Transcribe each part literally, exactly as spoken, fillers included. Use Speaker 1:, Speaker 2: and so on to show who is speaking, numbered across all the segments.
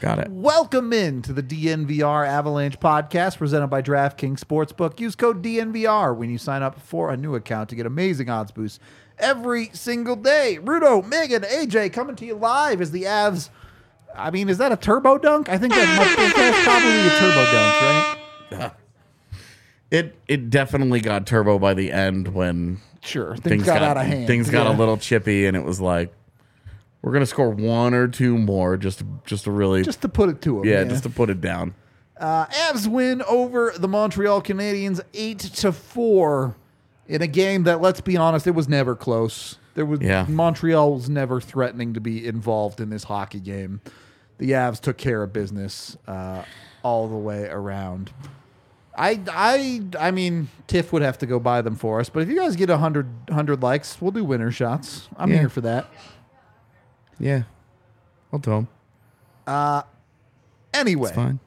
Speaker 1: Got it.
Speaker 2: Welcome in to the D N V R Avalanche podcast presented by DraftKings Sportsbook. Use code D N V R when you sign up for a new account to get amazing odds boosts every single day. Rudo, Megan, A J coming to you live as the Avs. I mean, is that a turbo dunk? I think that might, that's probably a turbo dunk, right?
Speaker 1: It it definitely got turbo by the end when
Speaker 2: Sure, things, got, got out of hand.
Speaker 1: Things got
Speaker 2: yeah.
Speaker 1: a little chippy, and it was like, we're gonna score one or two more just to, just to really
Speaker 2: Just to put it to them.
Speaker 1: yeah,
Speaker 2: Yeah,
Speaker 1: just to put it down.
Speaker 2: Uh, Avs win over the Montreal Canadiens eight to four in a game that, let's be honest, it was never close. There was
Speaker 1: Yeah.
Speaker 2: Montreal was never threatening to be involved in this hockey game. The Avs took care of business uh, all the way around. I, I, I mean, Tiff would have to go buy them for us, but if you guys get one hundred, one hundred likes, we'll do winner shots. I'm
Speaker 1: Yeah.
Speaker 2: here for that.
Speaker 1: Yeah, I'll tell him.
Speaker 2: Anyway,
Speaker 1: It's fine.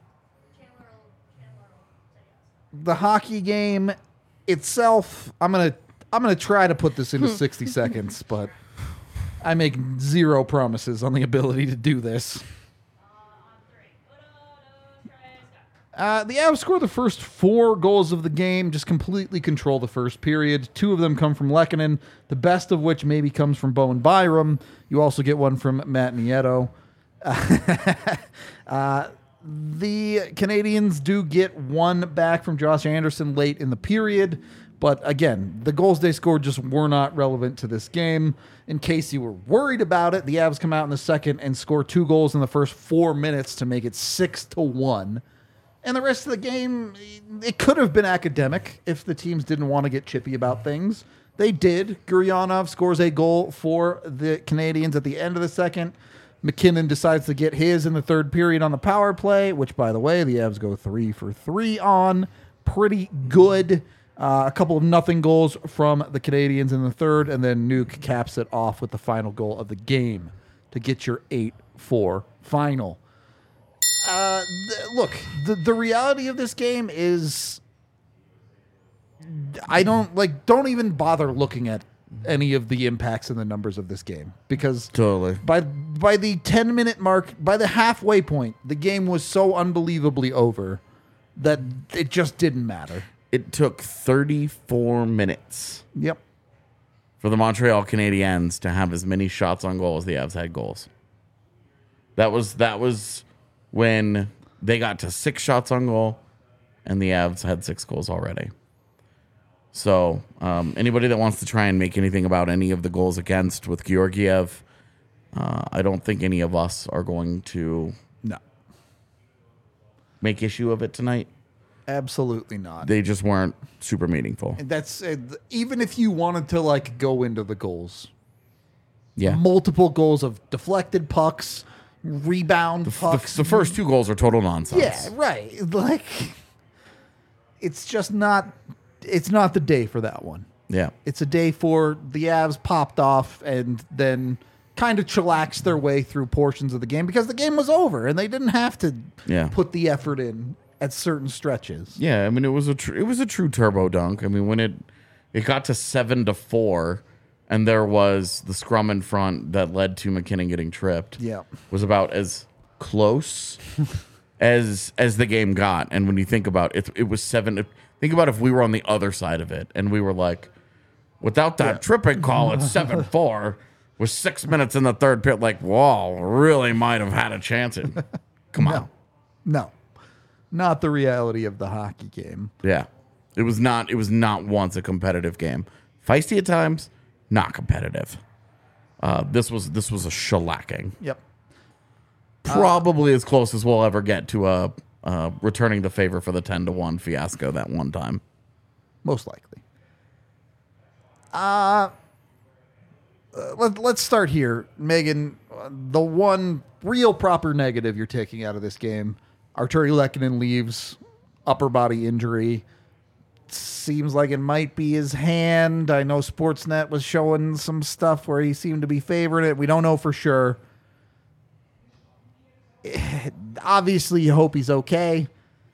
Speaker 2: the hockey game itself, I'm gonna I'm gonna try to put this into sixty seconds, but I make zero promises on the ability to do this. Uh, the Avs score the first four goals of the game, just completely control the first period. Two of them come from Lehkonen, the best of which maybe comes from Bowen Byram. You also get one from Matt Nieto. uh, the Canadians do get one back from Josh Anderson late in the period, but again, the goals they scored just were not relevant to this game. In case you were worried about it, the Avs come out in the second and score two goals in the first four minutes to make it six to one. And the rest of the game, it could have been academic if the teams didn't want to get chippy about things. They did. Guryanov scores a goal for the Canadians at the end of the second. McKinnon decides to get his in the third period on the power play, which, by the way, the Avs go three for three on. Pretty good. Uh, a couple of nothing goals from the Canadians in the third, and then Nuke caps it off with the final goal of the game to get your eight four final. Uh, th- look, the, the reality of this game is I don't like don't even bother looking at any of the impacts and the numbers of this game because
Speaker 1: Totally.
Speaker 2: by by the ten minute mark, by the halfway point, the game was so unbelievably over that it just didn't matter.
Speaker 1: It took thirty-four minutes
Speaker 2: Yep.
Speaker 1: for the Montreal Canadiens to have as many shots on goal as the Avs had goals. That was that was when they got to six shots on goal, and the Avs had six goals already. So um, anybody that wants to try and make anything about any of the goals against with Georgiev, uh, I don't think any of us are going to
Speaker 2: No.
Speaker 1: make issue of it tonight.
Speaker 2: Absolutely not.
Speaker 1: They just weren't super meaningful.
Speaker 2: And that's uh, even if you wanted to like go into the goals.
Speaker 1: Yeah.
Speaker 2: Multiple goals of deflected pucks, rebound
Speaker 1: The,
Speaker 2: pucks.
Speaker 1: the first two goals are total nonsense.
Speaker 2: Yeah, right. Like, it's just not. It's not the day for that one.
Speaker 1: Yeah.
Speaker 2: It's a day for the Avs popped off and then kind of chillaxed their way through portions of the game because the game was over and they didn't have to
Speaker 1: Yeah.
Speaker 2: put the effort in at certain stretches.
Speaker 1: Yeah, I mean it was a tr- it was a true turbo dunk. I mean when it it got to seven to four, and there was the scrum in front that led to McKinnon getting tripped.
Speaker 2: Yeah.
Speaker 1: Was about as close as as the game got. And when you think about it, it was seven. Think about if we were on the other side of it and we were like, without that
Speaker 2: Yeah.
Speaker 1: tripping call, it's seven four. With six minutes in the third period, like, whoa, really might have had a chance. At, come on.
Speaker 2: No. No. Not the reality of the hockey game.
Speaker 1: Yeah. It was not it was not once a competitive game. Feisty at times, not competitive. Uh, this was this was a shellacking.
Speaker 2: Yep.
Speaker 1: Probably as close as we'll ever get to a uh, returning the favor for the ten to one fiasco that one time.
Speaker 2: Most likely. Uh, uh let, let's start here. Megan, uh, the one real proper negative you're taking out of this game, Arturi Lehkonen leaves, upper body injury. Seems like it might be his hand. I know Sportsnet was showing some stuff where he seemed to be favoring it. We don't know for sure. Obviously, you hope he's okay.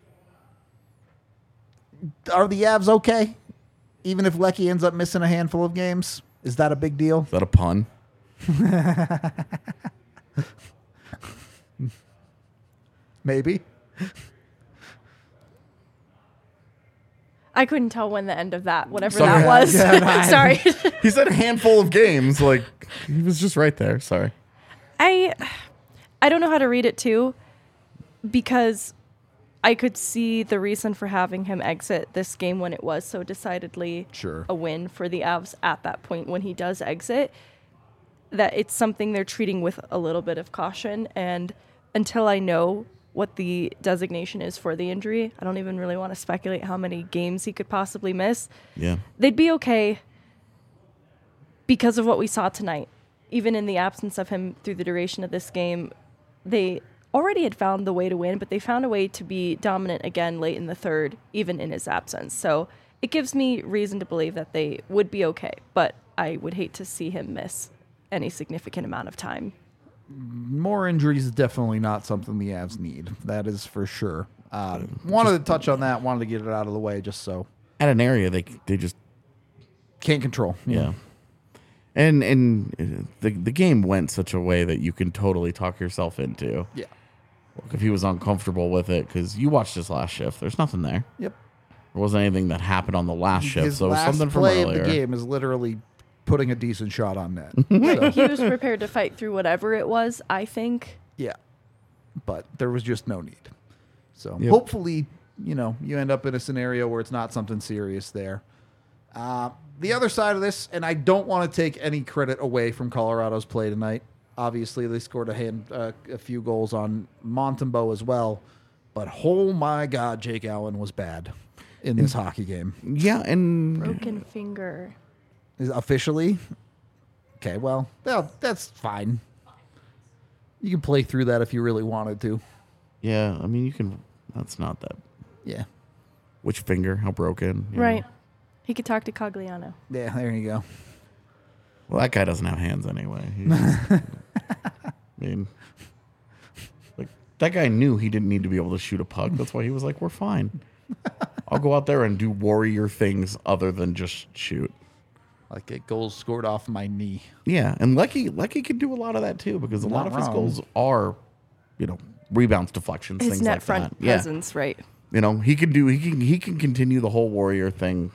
Speaker 2: Are the Avs okay? Even if Lecky ends up missing a handful of games? Is that a big deal?
Speaker 1: Is that a pun?
Speaker 2: Maybe.
Speaker 3: I couldn't tell when the end of that, whatever
Speaker 1: Sorry.
Speaker 3: that was.
Speaker 2: Yeah, no, I-
Speaker 3: Sorry.
Speaker 1: He said a handful of games. Like, he was just right there. Sorry.
Speaker 3: I I don't know how to read it too, because I could see the reason for having him exit this game when it was so decidedly
Speaker 2: Sure.
Speaker 3: a win for the Avs at that point when he does exit, that it's something they're treating with a little bit of caution. And until I know what the designation is for the injury, I don't even really want to speculate how many games he could possibly miss.
Speaker 1: Yeah.
Speaker 3: They'd be okay because of what we saw tonight. Even in the absence of him through the duration of this game, they already had found the way to win, but they found a way to be dominant again late in the third, even in his absence. So it gives me reason to believe that they would be okay, but I would hate to see him miss any significant amount of time.
Speaker 2: More injuries is definitely not something the Avs need. That is for sure. Uh, wanted to touch on that. Wanted to get it out of the way just so.
Speaker 1: At an area, they they just
Speaker 2: Can't control.
Speaker 1: yeah. And and the the game went such a way that you can totally talk yourself into.
Speaker 2: Yeah.
Speaker 1: If he was uncomfortable with it, because you watched his last shift, there's nothing there.
Speaker 2: Yep.
Speaker 1: There wasn't anything that happened on the last shift,
Speaker 2: His
Speaker 1: so it was
Speaker 2: last
Speaker 1: something from
Speaker 2: play
Speaker 1: earlier.
Speaker 2: of the game is literally putting a decent shot on net.
Speaker 3: Right. He was prepared to fight through whatever it was, I think.
Speaker 2: Yeah. But there was just no need. So
Speaker 1: Yep.
Speaker 2: hopefully, you know, you end up in a scenario where it's not something serious there. Uh, the other side of this, and I don't want to take any credit away from Colorado's play tonight. Obviously, they scored a hand, uh, a few goals on Montembeault as well. But oh my God, Jake Allen was bad in this hockey game.
Speaker 1: Yeah, and
Speaker 3: Broken finger.
Speaker 2: Is officially? Okay, well, well, that's fine. You can play through that if you really wanted to.
Speaker 1: yeah, I mean, you can. That's not that.
Speaker 2: Yeah.
Speaker 1: Which finger? How broken? you
Speaker 3: Right.
Speaker 1: know?
Speaker 3: He could talk to Cogliano.
Speaker 2: Yeah, there you go.
Speaker 1: Well, that guy doesn't have hands anyway. He's just- I mean, like that guy knew he didn't need to be able to shoot a puck. That's why he was like, "We're fine. I'll go out there and do warrior things other than just shoot."
Speaker 2: Like get goals scored off my knee.
Speaker 1: Yeah, and Lecky Lecky can do a lot of that too because a lot
Speaker 2: Not
Speaker 1: of his
Speaker 2: wrong.
Speaker 1: goals are, you know, rebounds, deflections,
Speaker 3: His
Speaker 1: things
Speaker 3: net
Speaker 1: like
Speaker 3: front
Speaker 1: that. Yeah,
Speaker 3: presence, right.
Speaker 1: you know, he can do he can he can continue the whole warrior thing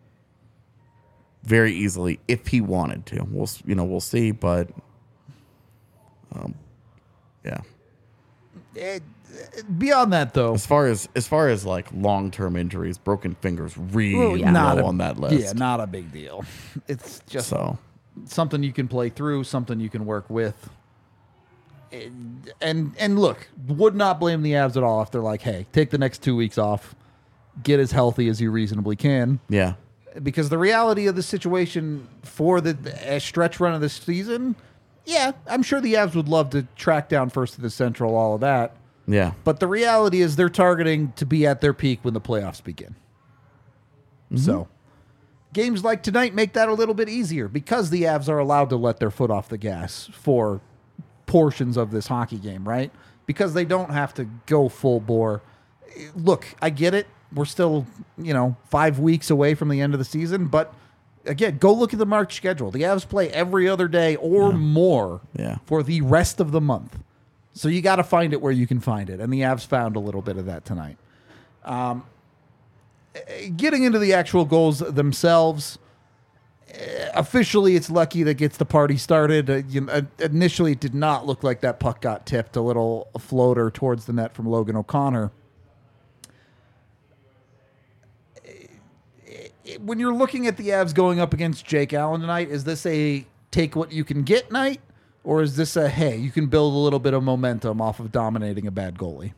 Speaker 1: very easily if he wanted to. We'll s- you know we'll see, but um, yeah.
Speaker 2: It, beyond that, though,
Speaker 1: As far as as far as like long term injuries, broken fingers really
Speaker 3: Oh, yeah.
Speaker 2: not
Speaker 1: low
Speaker 2: a,
Speaker 1: on that list.
Speaker 2: Yeah, not a big deal. It's just
Speaker 1: So
Speaker 2: something you can play through, something you can work with. And, and and look, would not blame the Avs at all if they're like, hey, take the next two weeks off, get as healthy as you reasonably can.
Speaker 1: yeah,
Speaker 2: Because the reality of the situation for the a stretch run of this season, yeah, I'm sure the Avs would love to track down first to the Central, all of that.
Speaker 1: yeah,
Speaker 2: But the reality is they're targeting to be at their peak when the playoffs begin. So games like tonight make that a little bit easier because the Avs are allowed to let their foot off the gas for portions of this hockey game, right? Because they don't have to go full bore. Look, I get it. We're still, you know, five weeks away from the end of the season, but again, go look at the March schedule. The Avs play every other day or more
Speaker 1: Yeah.
Speaker 2: for the rest of the month. So you got to find it where you can find it, and the Avs found a little bit of that tonight. Um, eh, getting into the actual goals themselves, eh, officially it's Lucky that gets the party started. Uh, you know, uh, initially, it did not look like that puck got tipped. A little floater towards the net from Logan O'Connor. When you're looking at the Avs going up against Jake Allen tonight, is this a take what you can get night? Or is this a, hey, you can build a little bit of momentum off of dominating a bad goalie?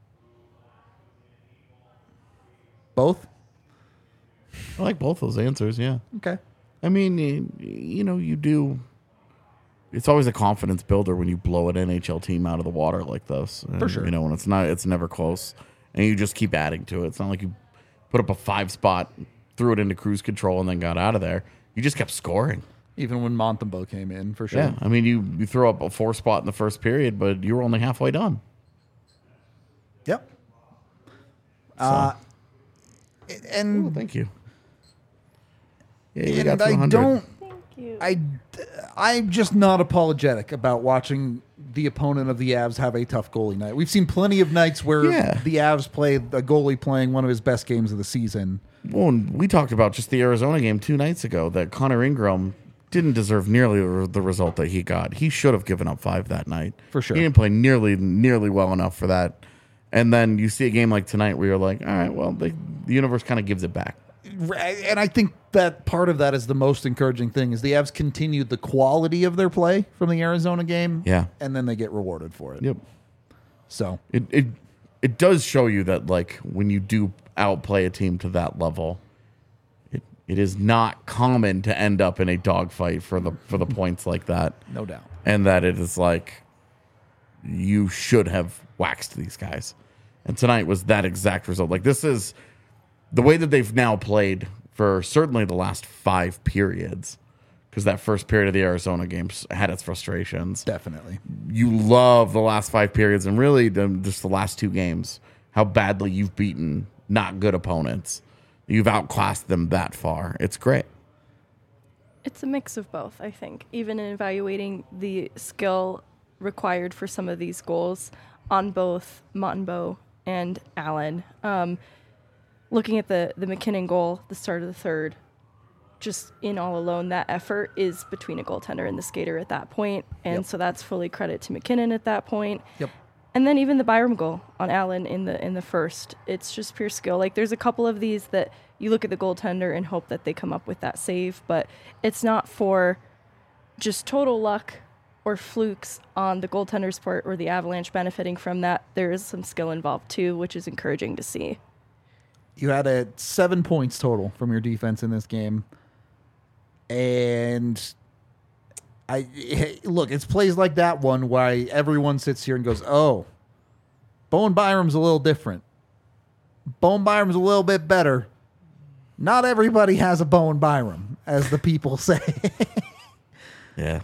Speaker 2: Both?
Speaker 1: I like both those answers. Yeah.
Speaker 2: Okay.
Speaker 1: I mean, you, you know, you do. It's always a confidence builder when you blow an N H L team out of the water like this.
Speaker 2: For
Speaker 1: And,
Speaker 2: sure.
Speaker 1: You know, when it's not, it's never close, and you just keep adding to it. It's not like you put up a five spot, threw it into cruise control, and then got out of there. You just kept scoring.
Speaker 2: Even when Montembeault came in, for sure.
Speaker 1: Yeah. I mean, you you throw up a four spot in the first period, but you were only halfway done.
Speaker 2: Yep. Uh, and
Speaker 1: Oh, thank you. Yeah, you
Speaker 2: and
Speaker 1: got to
Speaker 2: I
Speaker 1: one hundred.
Speaker 2: don't.
Speaker 3: Thank you.
Speaker 2: I, I'm just not apologetic about watching the opponent of the Avs have a tough goalie night. We've seen plenty of nights where
Speaker 1: Yeah.
Speaker 2: the Avs play a goalie playing one of his best games of the season.
Speaker 1: Well, and we talked about just the Arizona game two nights ago that Connor Ingram didn't deserve nearly the result that he got. He should have given up five that night.
Speaker 2: For sure.
Speaker 1: He didn't play nearly nearly well enough for that. And then you see a game like tonight where you're like, all right, well, the, the universe kind of gives it back.
Speaker 2: And I think that part of that is the most encouraging thing is the Avs continued the quality of their play from the Arizona game.
Speaker 1: Yeah.
Speaker 2: And then they get rewarded for it.
Speaker 1: Yep.
Speaker 2: So
Speaker 1: It it it does show you that like when you do outplay a team to that level, it it is not common to end up in a dogfight for the for the points like that.
Speaker 2: no doubt.
Speaker 1: And that it is like you should have waxed these guys. And tonight was that exact result. Like this is the way that they've now played for certainly the last five periods. Because that first period of the Arizona games had its frustrations.
Speaker 2: Definitely.
Speaker 1: You love the last five periods and really the, just the last two games, how badly you've beaten not good opponents. You've outclassed them that far. It's great.
Speaker 3: It's a mix of both, I think. Even in evaluating the skill required for some of these goals on both Montembeault and Allen. Um, looking at the, the McKinnon goal, the start of the third, just in all alone, that effort is between a goaltender and the skater at that point. And
Speaker 2: Yep.
Speaker 3: so that's fully credit to McKinnon at that point.
Speaker 2: Yep.
Speaker 3: And then even the Byram goal on Allen in the in the first, it's just pure skill. Like there's a couple of these that you look at the goaltender and hope that they come up with that save, but it's not for just total luck or flukes on the goaltender's part or the Avalanche benefiting from that. There is some skill involved too, which is encouraging to see.
Speaker 2: You had a seven points total from your defense in this game. And I hey, look, it's plays like that one why everyone sits here and goes, oh, Bowen Byram's a little different. Bowen Byram's a little bit better. Not everybody has a Bowen Byram, as the people say.
Speaker 1: Yeah.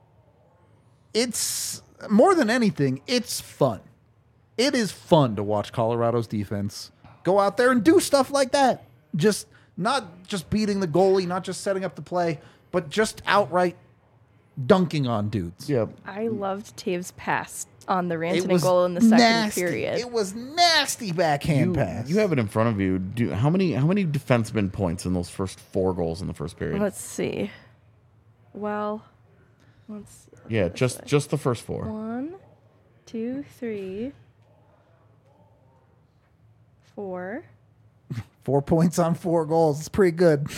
Speaker 2: It's more than anything, it's fun. It is fun to watch Colorado's defense go out there and do stuff like that. Just not just beating the goalie, not just setting up the play, but just outright dunking on dudes.
Speaker 1: Yeah.
Speaker 3: I loved Taves' pass on the
Speaker 2: It
Speaker 3: Rantanen
Speaker 2: was
Speaker 3: goal in the second
Speaker 2: nasty.
Speaker 3: period.
Speaker 2: It was nasty backhand
Speaker 1: You,
Speaker 2: pass.
Speaker 1: you have it in front of you. Do how many how many defenseman points in those first four goals in the first period?
Speaker 3: Let's see. Well, let's, let's
Speaker 1: yeah,
Speaker 3: look
Speaker 1: just
Speaker 3: at it.
Speaker 1: just the first four.
Speaker 3: One, two, three, four.
Speaker 2: Four points on four goals. It's pretty good.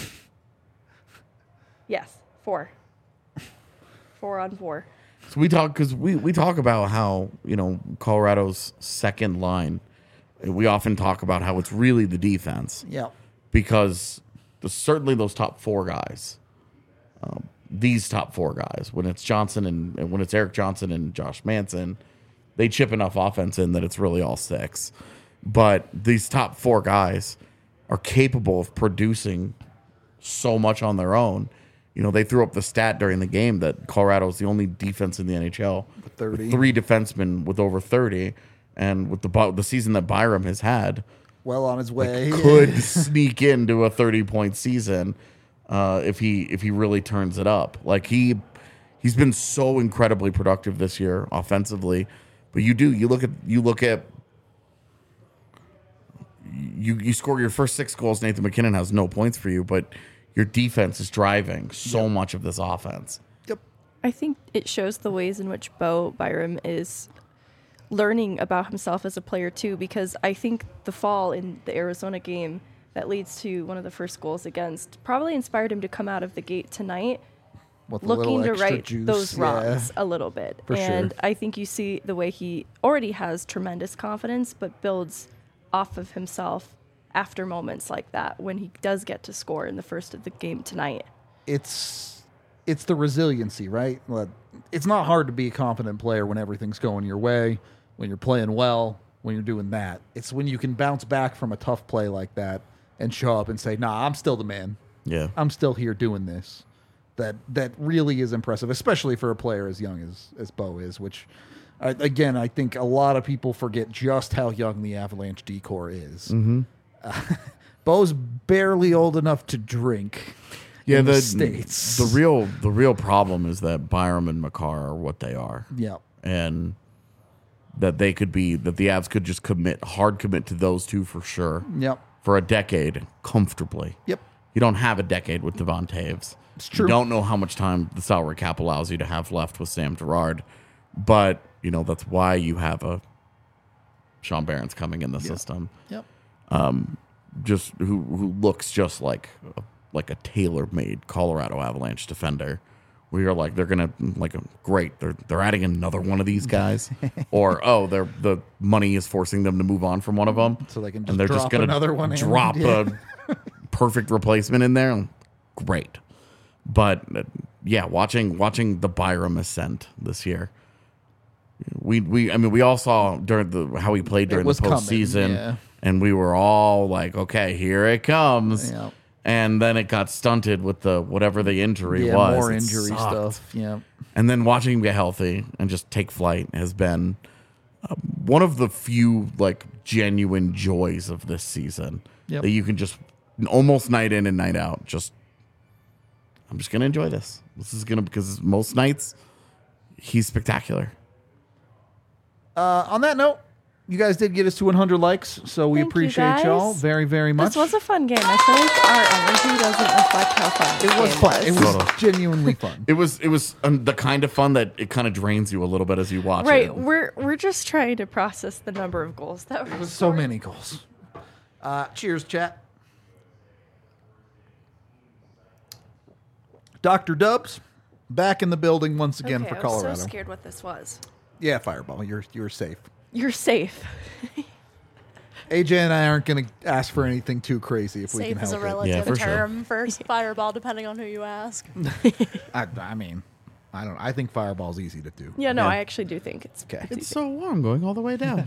Speaker 3: Yes, four. Four on four.
Speaker 1: So we talk because we, we talk about how, you know, Colorado's second line, we often talk about how it's really the defense
Speaker 2: Yeah.
Speaker 1: because the, certainly those top four guys, um, these top four guys, when it's Johnson and, and when it's Eric Johnson and Josh Manson, they chip enough offense in that it's really all six. But these top four guys are capable of producing so much on their own. You know, they threw up the stat during the game that Colorado is the only defense in the N H L with
Speaker 2: thirty.
Speaker 1: three defensemen with over thirty, and with the bu- the season that Byram has had,
Speaker 2: Well on his way.
Speaker 1: could sneak into a thirty point season uh, if he if he really turns it up. Like he he's been so incredibly productive this year offensively, but you do you look at you look at you you score your first six goals. Nathan McKinnon has no points for you, but your defense is driving so
Speaker 2: Yep.
Speaker 1: much of this offense.
Speaker 2: Yep.
Speaker 3: I think it shows the ways in which Bo Byram is learning about himself as a player too, because I think the fall in the Arizona game that leads to one of the first goals against probably inspired him to come out of the gate tonight
Speaker 2: With a
Speaker 3: looking
Speaker 2: little
Speaker 3: to
Speaker 2: extra
Speaker 3: right
Speaker 2: juice.
Speaker 3: those
Speaker 2: Yeah.
Speaker 3: wrongs a little bit.
Speaker 2: For sure.
Speaker 3: and I think you see the way he already has tremendous confidence, but builds off of himself after moments like that when he does get to score in the first of the game tonight.
Speaker 2: It's it's the resiliency, right? Like, it's not hard to be a confident player when everything's going your way, when you're playing well, when you're doing that. It's when you can bounce back from a tough play like that and show up and say, nah, I'm still the man.
Speaker 1: Yeah.
Speaker 2: I'm still here doing this. That that really is impressive, especially for a player as young as, as Bo is, which, uh, again, I think a lot of people forget just how young the Avalanche D-core is.
Speaker 1: Mm-hmm.
Speaker 2: Uh, Bo's barely old enough to drink.
Speaker 1: Yeah,
Speaker 2: in
Speaker 1: the,
Speaker 2: the States.
Speaker 1: the real the real problem is that Byram and Makar are what they are.
Speaker 2: Yeah.
Speaker 1: and that they could be that the Avs could just commit hard commit to those two for sure.
Speaker 2: Yep.
Speaker 1: For a decade comfortably.
Speaker 2: Yep.
Speaker 1: You don't have a decade with Devon Taves.
Speaker 2: It's true.
Speaker 1: You don't know how much time the salary cap allows you to have left with Sam Girard, but you know that's why you have a Sean Barron's coming in the system.
Speaker 2: Yep.
Speaker 1: Just who who looks just like a, like a tailor-made Colorado Avalanche defender. We are like they're gonna like great they're they're adding another one of these guys, or oh they're the money is forcing them to move on from one of them,
Speaker 2: So they can just
Speaker 1: and they're
Speaker 2: drop
Speaker 1: just gonna
Speaker 2: another one in.
Speaker 1: drop
Speaker 2: Yeah.
Speaker 1: a perfect replacement in there. Great, but uh, yeah, watching watching the Byram ascent this year. We we I mean we all saw during the how he played during the
Speaker 2: was coming,
Speaker 1: postseason,
Speaker 2: yeah.
Speaker 1: and we were all like, okay, here it comes.
Speaker 2: Yeah.
Speaker 1: And then it got stunted with the whatever the injury
Speaker 2: Yeah,
Speaker 1: was.
Speaker 2: more
Speaker 1: It
Speaker 2: injury
Speaker 1: sucked.
Speaker 2: stuff. Yeah.
Speaker 1: And then watching him get healthy and just take flight has been uh, one of the few like genuine joys of this season.
Speaker 2: Yep.
Speaker 1: That you can just almost night in and night out. Just I'm just gonna enjoy this. This is gonna because most nights he's spectacular.
Speaker 2: Uh, on that note, you guys did get us to one hundred likes, so we
Speaker 3: Thank you,
Speaker 2: appreciate
Speaker 3: guys.
Speaker 2: y'all very, very much.
Speaker 3: This was a fun game. I feel like our energy doesn't reflect how fun this
Speaker 2: it was
Speaker 3: game
Speaker 2: fun. It was
Speaker 1: Totally.
Speaker 2: genuinely fun.
Speaker 1: It was it was um, the kind of fun that it kind of drains you a little bit as you watch
Speaker 3: Right,
Speaker 1: it.
Speaker 3: we're we're just trying to process the number of goals that were
Speaker 2: So
Speaker 3: scored.
Speaker 2: many goals. Uh, cheers, chat. Doctor Dubs, back in the building once again
Speaker 3: Okay,
Speaker 2: for
Speaker 3: I was
Speaker 2: Colorado.
Speaker 3: so scared what this was.
Speaker 2: Yeah, Fireball, you're you're safe.
Speaker 3: You're safe.
Speaker 2: A J and I aren't going to ask for anything too crazy if we
Speaker 4: Safe
Speaker 2: can
Speaker 4: is a
Speaker 2: help it.
Speaker 4: relative
Speaker 1: Yeah, for sure.
Speaker 4: term for fireball, depending on who you ask.
Speaker 2: I, I mean, I don't. I think Fireball's easy to do.
Speaker 3: Yeah, no,
Speaker 1: Yeah.
Speaker 3: I actually do think it's.
Speaker 2: Okay.
Speaker 3: it's
Speaker 1: It's
Speaker 3: easy.
Speaker 1: so warm going all the way down.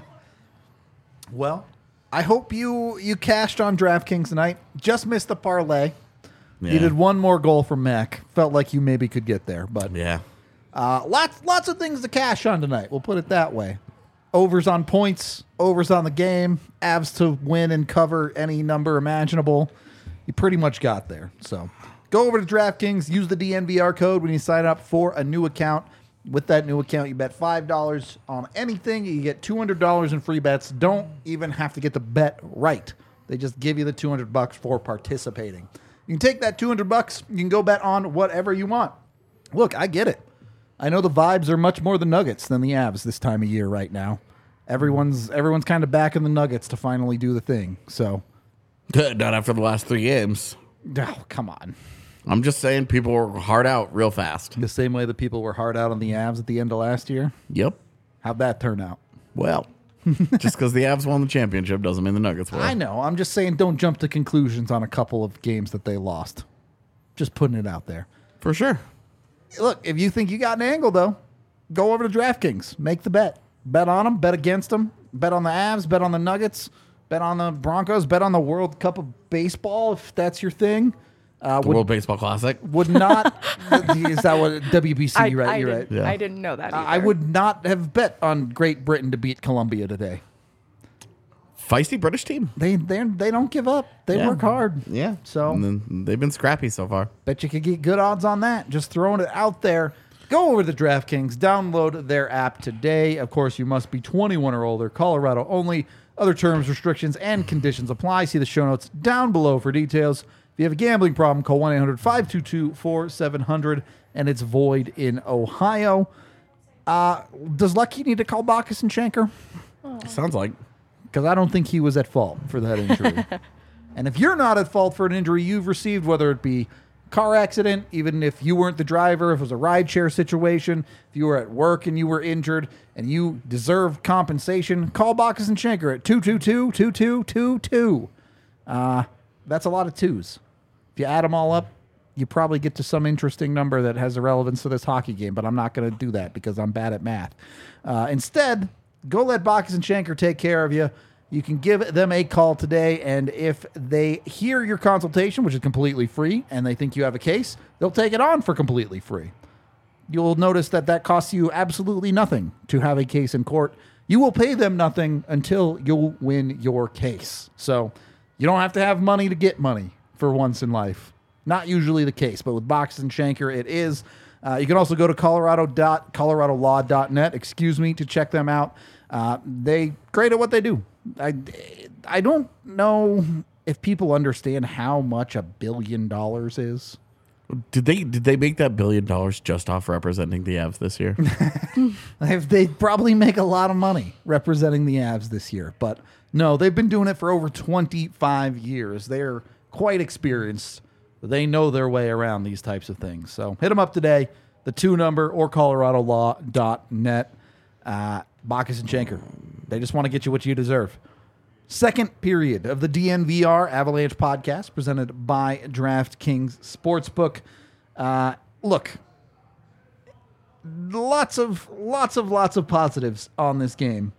Speaker 2: Well, I hope you you cashed on DraftKings tonight. Just missed the parlay.
Speaker 1: Yeah.
Speaker 2: Needed one more goal from Mac. Felt like you maybe could get there, but
Speaker 1: Yeah.
Speaker 2: uh, lots lots of things to cash on tonight. We'll put it that way. Overs on points, overs on the game, Avs to win and cover any number imaginable. You pretty much got there. So go over to DraftKings, use the D N V R code when you sign up for a new account. With that new account, you bet five dollars on anything. You get two hundred dollars in free bets. Don't even have to get the bet right. They just give you the two hundred bucks for participating. You can take that two hundred bucks. You can go bet on whatever you want. Look, I get it. I know the vibes are much more the Nuggets than the Avs this time of year right now. Everyone's everyone's kind of backing the Nuggets to finally do the thing. So,
Speaker 1: Not after the last three games.
Speaker 2: oh, come on.
Speaker 1: I'm just saying people were hard out real fast.
Speaker 2: The same way that people were hard out on the Avs at the end of last year.
Speaker 1: Yep.
Speaker 2: How'd that turn out?
Speaker 1: Well, just because the Avs won the championship doesn't mean the Nuggets will.
Speaker 2: I know. I'm just saying don't jump to conclusions on a couple of games that they lost. Just putting it out there.
Speaker 1: For sure.
Speaker 2: Look, if you think you got an angle, though, go over to DraftKings. Make the bet. Bet on them. Bet against them. Bet on the Avs. Bet on the Nuggets. Bet on the Broncos. Bet on the World Cup of Baseball, if that's your thing. Uh,
Speaker 1: The
Speaker 2: would,
Speaker 1: World Baseball Classic.
Speaker 2: would not... is that what... W B C,
Speaker 3: I,
Speaker 2: right?
Speaker 3: I
Speaker 2: You're
Speaker 3: didn't,
Speaker 2: right.
Speaker 1: Yeah.
Speaker 3: I didn't know that.
Speaker 2: I
Speaker 3: either.
Speaker 2: would not have bet on Great Britain to beat Colombia today.
Speaker 1: Feisty British team.
Speaker 2: They they they don't give up. They
Speaker 1: Yeah.
Speaker 2: work hard.
Speaker 1: Yeah.
Speaker 2: So-
Speaker 1: And then they've been scrappy so far.
Speaker 2: Bet you could get good odds on that. Just throwing it out there. Go over to DraftKings, download their app today. Of course, you must be twenty-one or older, Colorado only. Other terms, restrictions, and conditions apply. See the show notes down below for details. If you have a gambling problem, call one eight hundred five two two four seven zero zero, and it's void in Ohio. Uh, does Lucky need to call Bacchus and Schenker?
Speaker 1: Sounds like.
Speaker 2: Because I don't think he was at fault for that injury. And if you're not at fault for an injury you've received, whether it be car accident, even if you weren't the driver, if it was a rideshare situation, if you were at work and you were injured and you deserve compensation, call Bacchus and Schenker at two two two, two two two two. Uh, that's a lot of twos. If you add them all up, you probably get to some interesting number that has a relevance to this hockey game, but I'm not going to do that because I'm bad at math. Uh, instead, go let Bacchus and Schenker take care of you. You can give them a call today, and if they hear your consultation, which is completely free, and they think you have a case, they'll take it on for completely free. You'll notice that that costs you absolutely nothing to have a case in court. You will pay them nothing until you'll win your case. So you don't have to have money to get money for once in life. Not usually the case, but with Bacchus and Schenker, it is. Uh, you can also go to colorado dot colorado law dot net, excuse me, to check them out. Uh, they great at what they do. I, I don't know if people understand how much a billion dollars is.
Speaker 1: Did they did they make that billion dollars just off representing the Avs this year?
Speaker 2: If they probably make a lot of money representing the Avs this year, but no, they've been doing it for over twenty-five years. They're quite experienced. They know their way around these types of things. So hit them up today, the two number or colorado law dot net. Uh, Bacchus and Schenker, they just want to get you what you deserve. Second period of the D N V R Avalanche podcast presented by DraftKings Sportsbook. Uh, look, lots of, lots of, lots of positives on this game.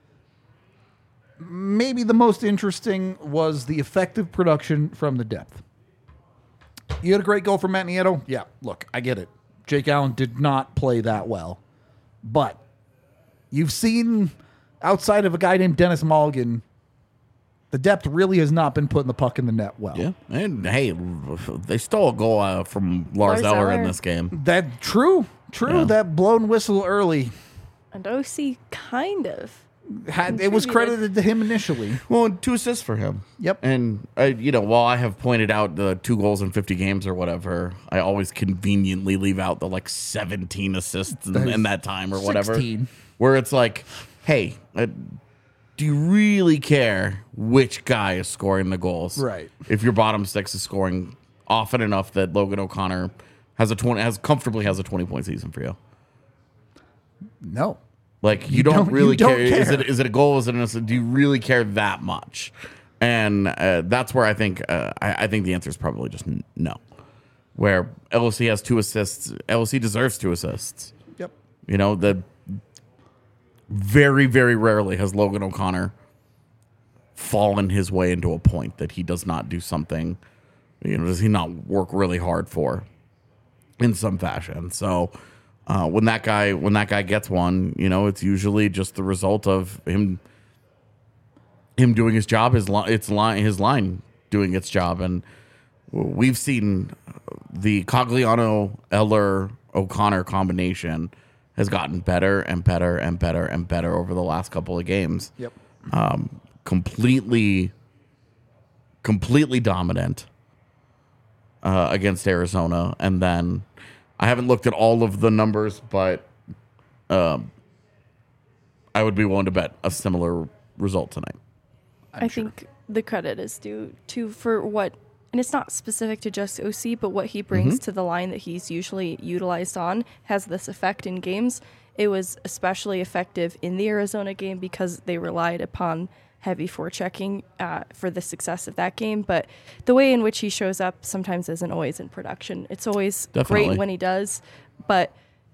Speaker 2: Maybe the most interesting was the effective production from the depth. You had a great goal from Matt Nieto. Yeah, look, I get it. Jake Allen did not play that well. But you've seen, outside of a guy named Dennis Mulligan, the depth really has not been putting the puck in the net well.
Speaker 1: Yeah, and hey, they stole a goal uh, from Lars,
Speaker 3: Lars
Speaker 1: Eller,
Speaker 3: Eller.
Speaker 1: in this game.
Speaker 2: That true, true.
Speaker 1: Yeah.
Speaker 2: That blown whistle early,
Speaker 3: And O C kind of.
Speaker 2: had, it was credited to him initially.
Speaker 1: Well, two assists for him.
Speaker 2: Yep.
Speaker 1: And uh, you know, while I have pointed out the two goals in fifty games or whatever, I always conveniently leave out the like seventeen assists in, in that time or whatever.
Speaker 2: sixteen.
Speaker 1: Where it's like, hey, uh, do you really care which guy is scoring the goals?
Speaker 2: Right.
Speaker 1: If your bottom six is scoring often enough that Logan O'Connor has a twenty has comfortably has a twenty point season for you.
Speaker 2: No.
Speaker 1: Like you,
Speaker 2: You
Speaker 1: don't,
Speaker 2: don't- you
Speaker 1: really
Speaker 2: don't
Speaker 1: care. Is
Speaker 2: care.
Speaker 1: it is it a goal? Is it an assist? Do you really care that much? And uh, that's where I think uh, I, I think the answer is probably just n- no. Where L O C has two assists, L O C deserves two assists.
Speaker 2: Yep.
Speaker 1: You know, the very very rarely has Logan O'Connor fallen his way into a point that he does not do something. You know, does he not work really hard for in some fashion? So. Uh, when that guy when that guy gets one, you know, it's usually just the result of him him doing his job. His li- it's line his line doing its job, and we've seen the Cogliano Eller O'Connor combination has gotten better and better and better and better over the last couple of games.
Speaker 2: Yep.
Speaker 1: Um, completely, completely dominant uh, against Arizona, and then. I haven't looked at all of the numbers, but um, I would be willing to bet a similar result tonight.
Speaker 3: I think the credit is due to for what, and it's not specific to just O C, but what he brings
Speaker 1: Mm-hmm.
Speaker 3: to the line that he's usually utilized on has this effect in games. It was especially effective in the Arizona game because they relied upon heavy forechecking uh, for the success of that game. But the way in which he shows up sometimes isn't always in production. It's always
Speaker 1: Definitely.
Speaker 3: great when he does, but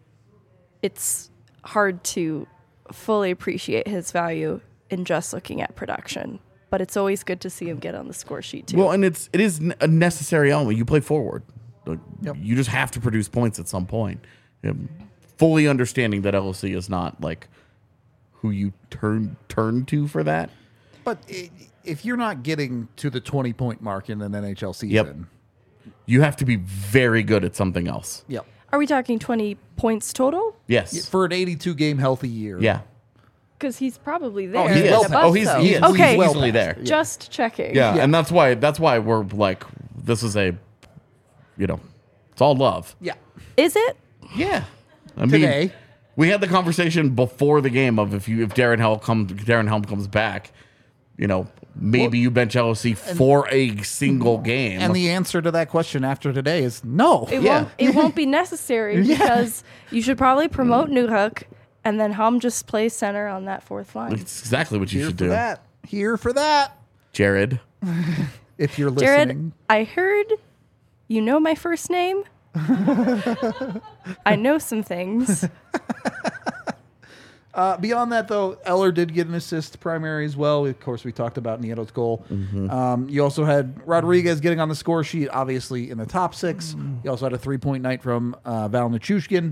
Speaker 3: it's hard to fully appreciate his value in just looking at production. But it's always good to see him get on the score sheet too.
Speaker 1: Well, and it's it is a necessary element. You play forward. Like,
Speaker 2: Yep.
Speaker 1: You just have to produce points at some point. Um, fully understanding that L O C is not like who you turn turn to for that.
Speaker 2: But i- if you're not getting to the twenty-point mark in an N H L season,
Speaker 1: You have to be very good at something else.
Speaker 2: yep.
Speaker 3: Are we talking twenty points total?
Speaker 1: Yes.
Speaker 2: For an eighty-two game healthy year.
Speaker 1: Yeah.
Speaker 3: Because he's probably there.
Speaker 2: he's
Speaker 1: He
Speaker 2: well
Speaker 1: is.
Speaker 2: past-
Speaker 1: Oh, he's,
Speaker 3: so.
Speaker 1: he is.
Speaker 3: Okay.
Speaker 1: He's
Speaker 2: well
Speaker 1: easily
Speaker 2: past.
Speaker 1: there.
Speaker 3: Just checking.
Speaker 1: Yeah,
Speaker 2: Yeah.
Speaker 1: and that's why that's why we're like, this is a, you know, it's all love.
Speaker 2: Yeah.
Speaker 3: Is it?
Speaker 1: Yeah, I mean,
Speaker 2: Today.
Speaker 1: we had the conversation before the game of if you if Darren Helm comes Darren Helm comes back, you know, maybe
Speaker 2: Well,
Speaker 1: you bench L O C for a single game.
Speaker 2: And the answer to that question after today is no.
Speaker 3: It
Speaker 1: Yeah.
Speaker 3: won't. It won't be necessary
Speaker 2: Yeah.
Speaker 3: because you should probably promote Newhook, and then Helm just plays center on that fourth line.
Speaker 1: it's exactly what you
Speaker 2: Here
Speaker 1: should
Speaker 2: for
Speaker 1: do,
Speaker 2: that. Here for that.
Speaker 1: Jared.
Speaker 2: If you're
Speaker 3: Jared,
Speaker 2: listening.
Speaker 3: I heard you know my first name. I know some things.
Speaker 2: Uh, beyond that, though, Eller did get an assist primary as well. Of course, we talked about Nieto's goal. Um, you also had Rodriguez getting on the score sheet, obviously in the top six. You also had a three-point night from uh, Val Nichushkin.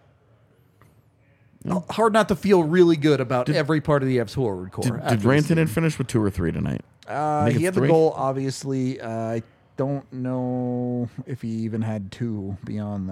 Speaker 2: Hard not to feel really good about every part of the F's forward core.
Speaker 1: Did,
Speaker 2: after
Speaker 1: did
Speaker 2: this
Speaker 1: Rantanen finish with two or three tonight?
Speaker 2: Uh,
Speaker 1: think
Speaker 2: he
Speaker 1: it's
Speaker 2: had the
Speaker 1: three?
Speaker 2: goal, obviously. Uh, I don't know if he even had two beyond that.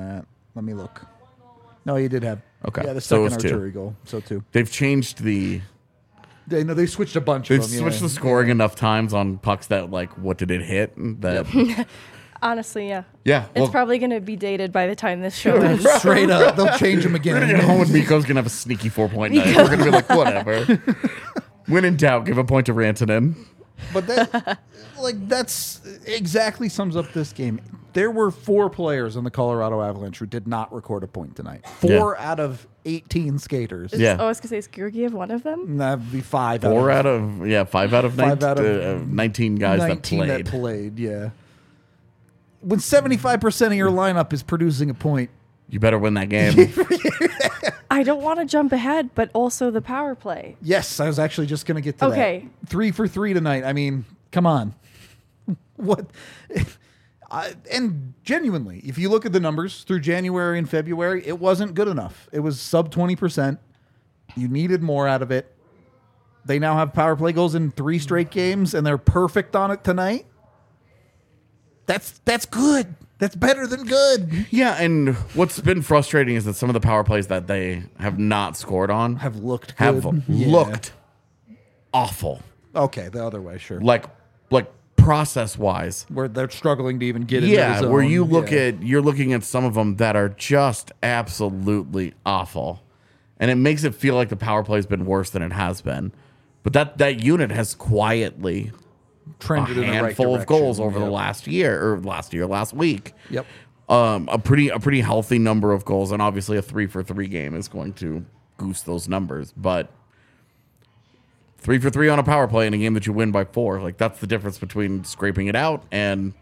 Speaker 2: Let me look. No, he did have.
Speaker 1: Okay,
Speaker 2: Yeah, the
Speaker 1: so it
Speaker 2: second
Speaker 1: was two.
Speaker 2: archery goal. So two.
Speaker 1: They've changed the
Speaker 2: They know they switched a bunch
Speaker 1: they've
Speaker 2: of them.
Speaker 1: switched
Speaker 2: yeah.
Speaker 1: the scoring enough times on pucks that like what did it hit that
Speaker 3: Honestly, yeah.
Speaker 1: yeah.
Speaker 3: It's
Speaker 1: Well,
Speaker 3: probably going to be dated by the time this show
Speaker 2: They'll
Speaker 3: ends.
Speaker 2: just straight up. They'll change them
Speaker 1: we're gonna
Speaker 2: again.
Speaker 1: get home with Miko's gonna have a sneaky four point night. We're gonna be like whatever. When in doubt, give a point to Rantanen.
Speaker 2: But that, like, that's exactly sums up this game. There were four players on the Colorado Avalanche who did not record a point tonight. Four out of eighteen skaters.
Speaker 1: Yeah.
Speaker 3: Oh, I was going to say, is Georgiev one of them?
Speaker 2: That'd be five.
Speaker 1: Four
Speaker 2: out
Speaker 1: out of yeah, five out of,
Speaker 2: Five
Speaker 1: nine,
Speaker 2: out of
Speaker 1: uh, nineteen guys
Speaker 2: nineteen
Speaker 1: that played.
Speaker 2: that played. Yeah. When seventy-five percent of your lineup is producing a point,
Speaker 1: You better win that game.
Speaker 3: I don't want to jump ahead, but also the power play.
Speaker 2: yes, I was actually just going to get to
Speaker 3: Okay.
Speaker 2: that. Three for three tonight. I mean, come on. What? I, and genuinely, if you look at the numbers through January and February, it wasn't good enough. It was sub twenty percent. You needed more out of it. They now have power play goals in three straight games, and they're perfect on it tonight. That's that's good. That's better than good.
Speaker 1: Yeah, and what's been frustrating is that some of the power plays that they have not scored on
Speaker 2: Have looked
Speaker 1: have
Speaker 2: good. Yeah.
Speaker 1: looked awful.
Speaker 2: Okay, the other way, sure.
Speaker 1: Like like process wise.
Speaker 2: Where they're struggling to even get into
Speaker 1: Yeah,
Speaker 2: the zone.
Speaker 1: where you look
Speaker 2: Yeah.
Speaker 1: at you're looking at some of them that are just absolutely awful. And it makes it feel like the power play has been worse than it has been. But that that unit has quietly a
Speaker 2: trended in the right
Speaker 1: handful of
Speaker 2: direction.
Speaker 1: goals over the
Speaker 2: Yep.
Speaker 1: last year or last year, last week.
Speaker 2: Yep.
Speaker 1: Um, a pretty a pretty healthy number of goals, and obviously a three for three game is going to goose those numbers. But three for three on a power play in a game that you win by four, like that's the difference between scraping it out and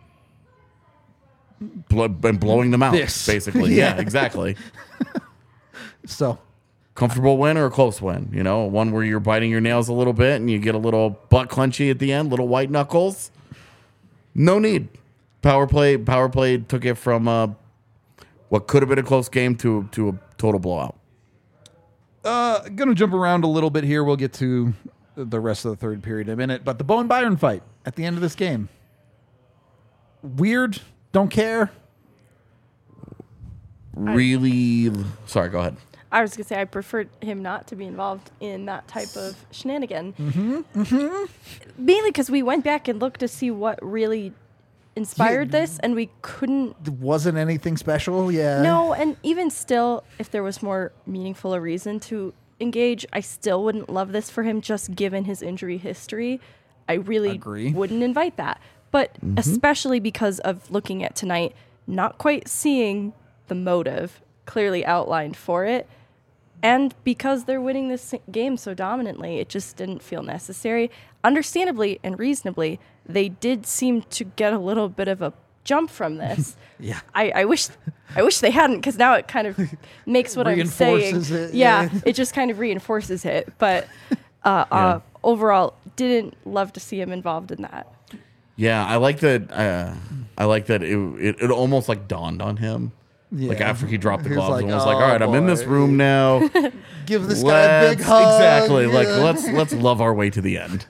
Speaker 1: bl- and blowing them out.
Speaker 2: This.
Speaker 1: Basically, yeah.
Speaker 2: Yeah.
Speaker 1: exactly.
Speaker 2: So
Speaker 1: Comfortable win or a close win, you know, one where you're biting your nails a little bit and you get a little butt clenchy at the end, little white knuckles. No need. Power play, power play took it from uh, what could have been a close game to to a total blowout.
Speaker 2: uh gonna jump around a little bit here. We'll get to the rest of the third period in a minute. But the Bowen Byron fight at the end of this game. Weird. Don't care.
Speaker 1: Really, sorry. Go ahead.
Speaker 3: I was going to say I preferred him not to be involved in that type of shenanigan.
Speaker 2: Mm-hmm. Mm-hmm.
Speaker 3: Mainly because we went back and looked to see what really inspired
Speaker 2: Yeah.
Speaker 3: this, and we couldn't.
Speaker 2: It wasn't anything special. Yeah.
Speaker 3: No, and even still, if there was more meaningful a reason to engage, I still wouldn't love this for him just given his injury history. I really
Speaker 2: Agree.
Speaker 3: wouldn't invite that. But especially because of looking at tonight, not quite seeing the motive clearly outlined for it. And because they're winning this game so dominantly, it just didn't feel necessary. Understandably and reasonably, they did seem to get a little bit of a jump from this.
Speaker 2: Yeah.
Speaker 3: I, I wish I wish they hadn't, because now it kind of makes what I'm saying.
Speaker 2: Reinforces it,
Speaker 3: yeah,
Speaker 2: yeah.
Speaker 3: it just kind of reinforces it. But uh,
Speaker 1: Yeah.
Speaker 3: uh, overall, didn't love to see him involved in that.
Speaker 1: Yeah, I like that. Uh, I like that. It, it it almost like dawned on him. Like
Speaker 2: Yeah.
Speaker 1: after he dropped the
Speaker 2: He was
Speaker 1: gloves
Speaker 2: like,
Speaker 1: and was like,
Speaker 2: "Oh,
Speaker 1: "All right, I'm in this
Speaker 2: boy."
Speaker 1: room now.
Speaker 2: Give this guy a big
Speaker 1: Let's-
Speaker 2: hug.
Speaker 1: Exactly. Like
Speaker 2: Yeah.
Speaker 1: let's let's love our way to the end.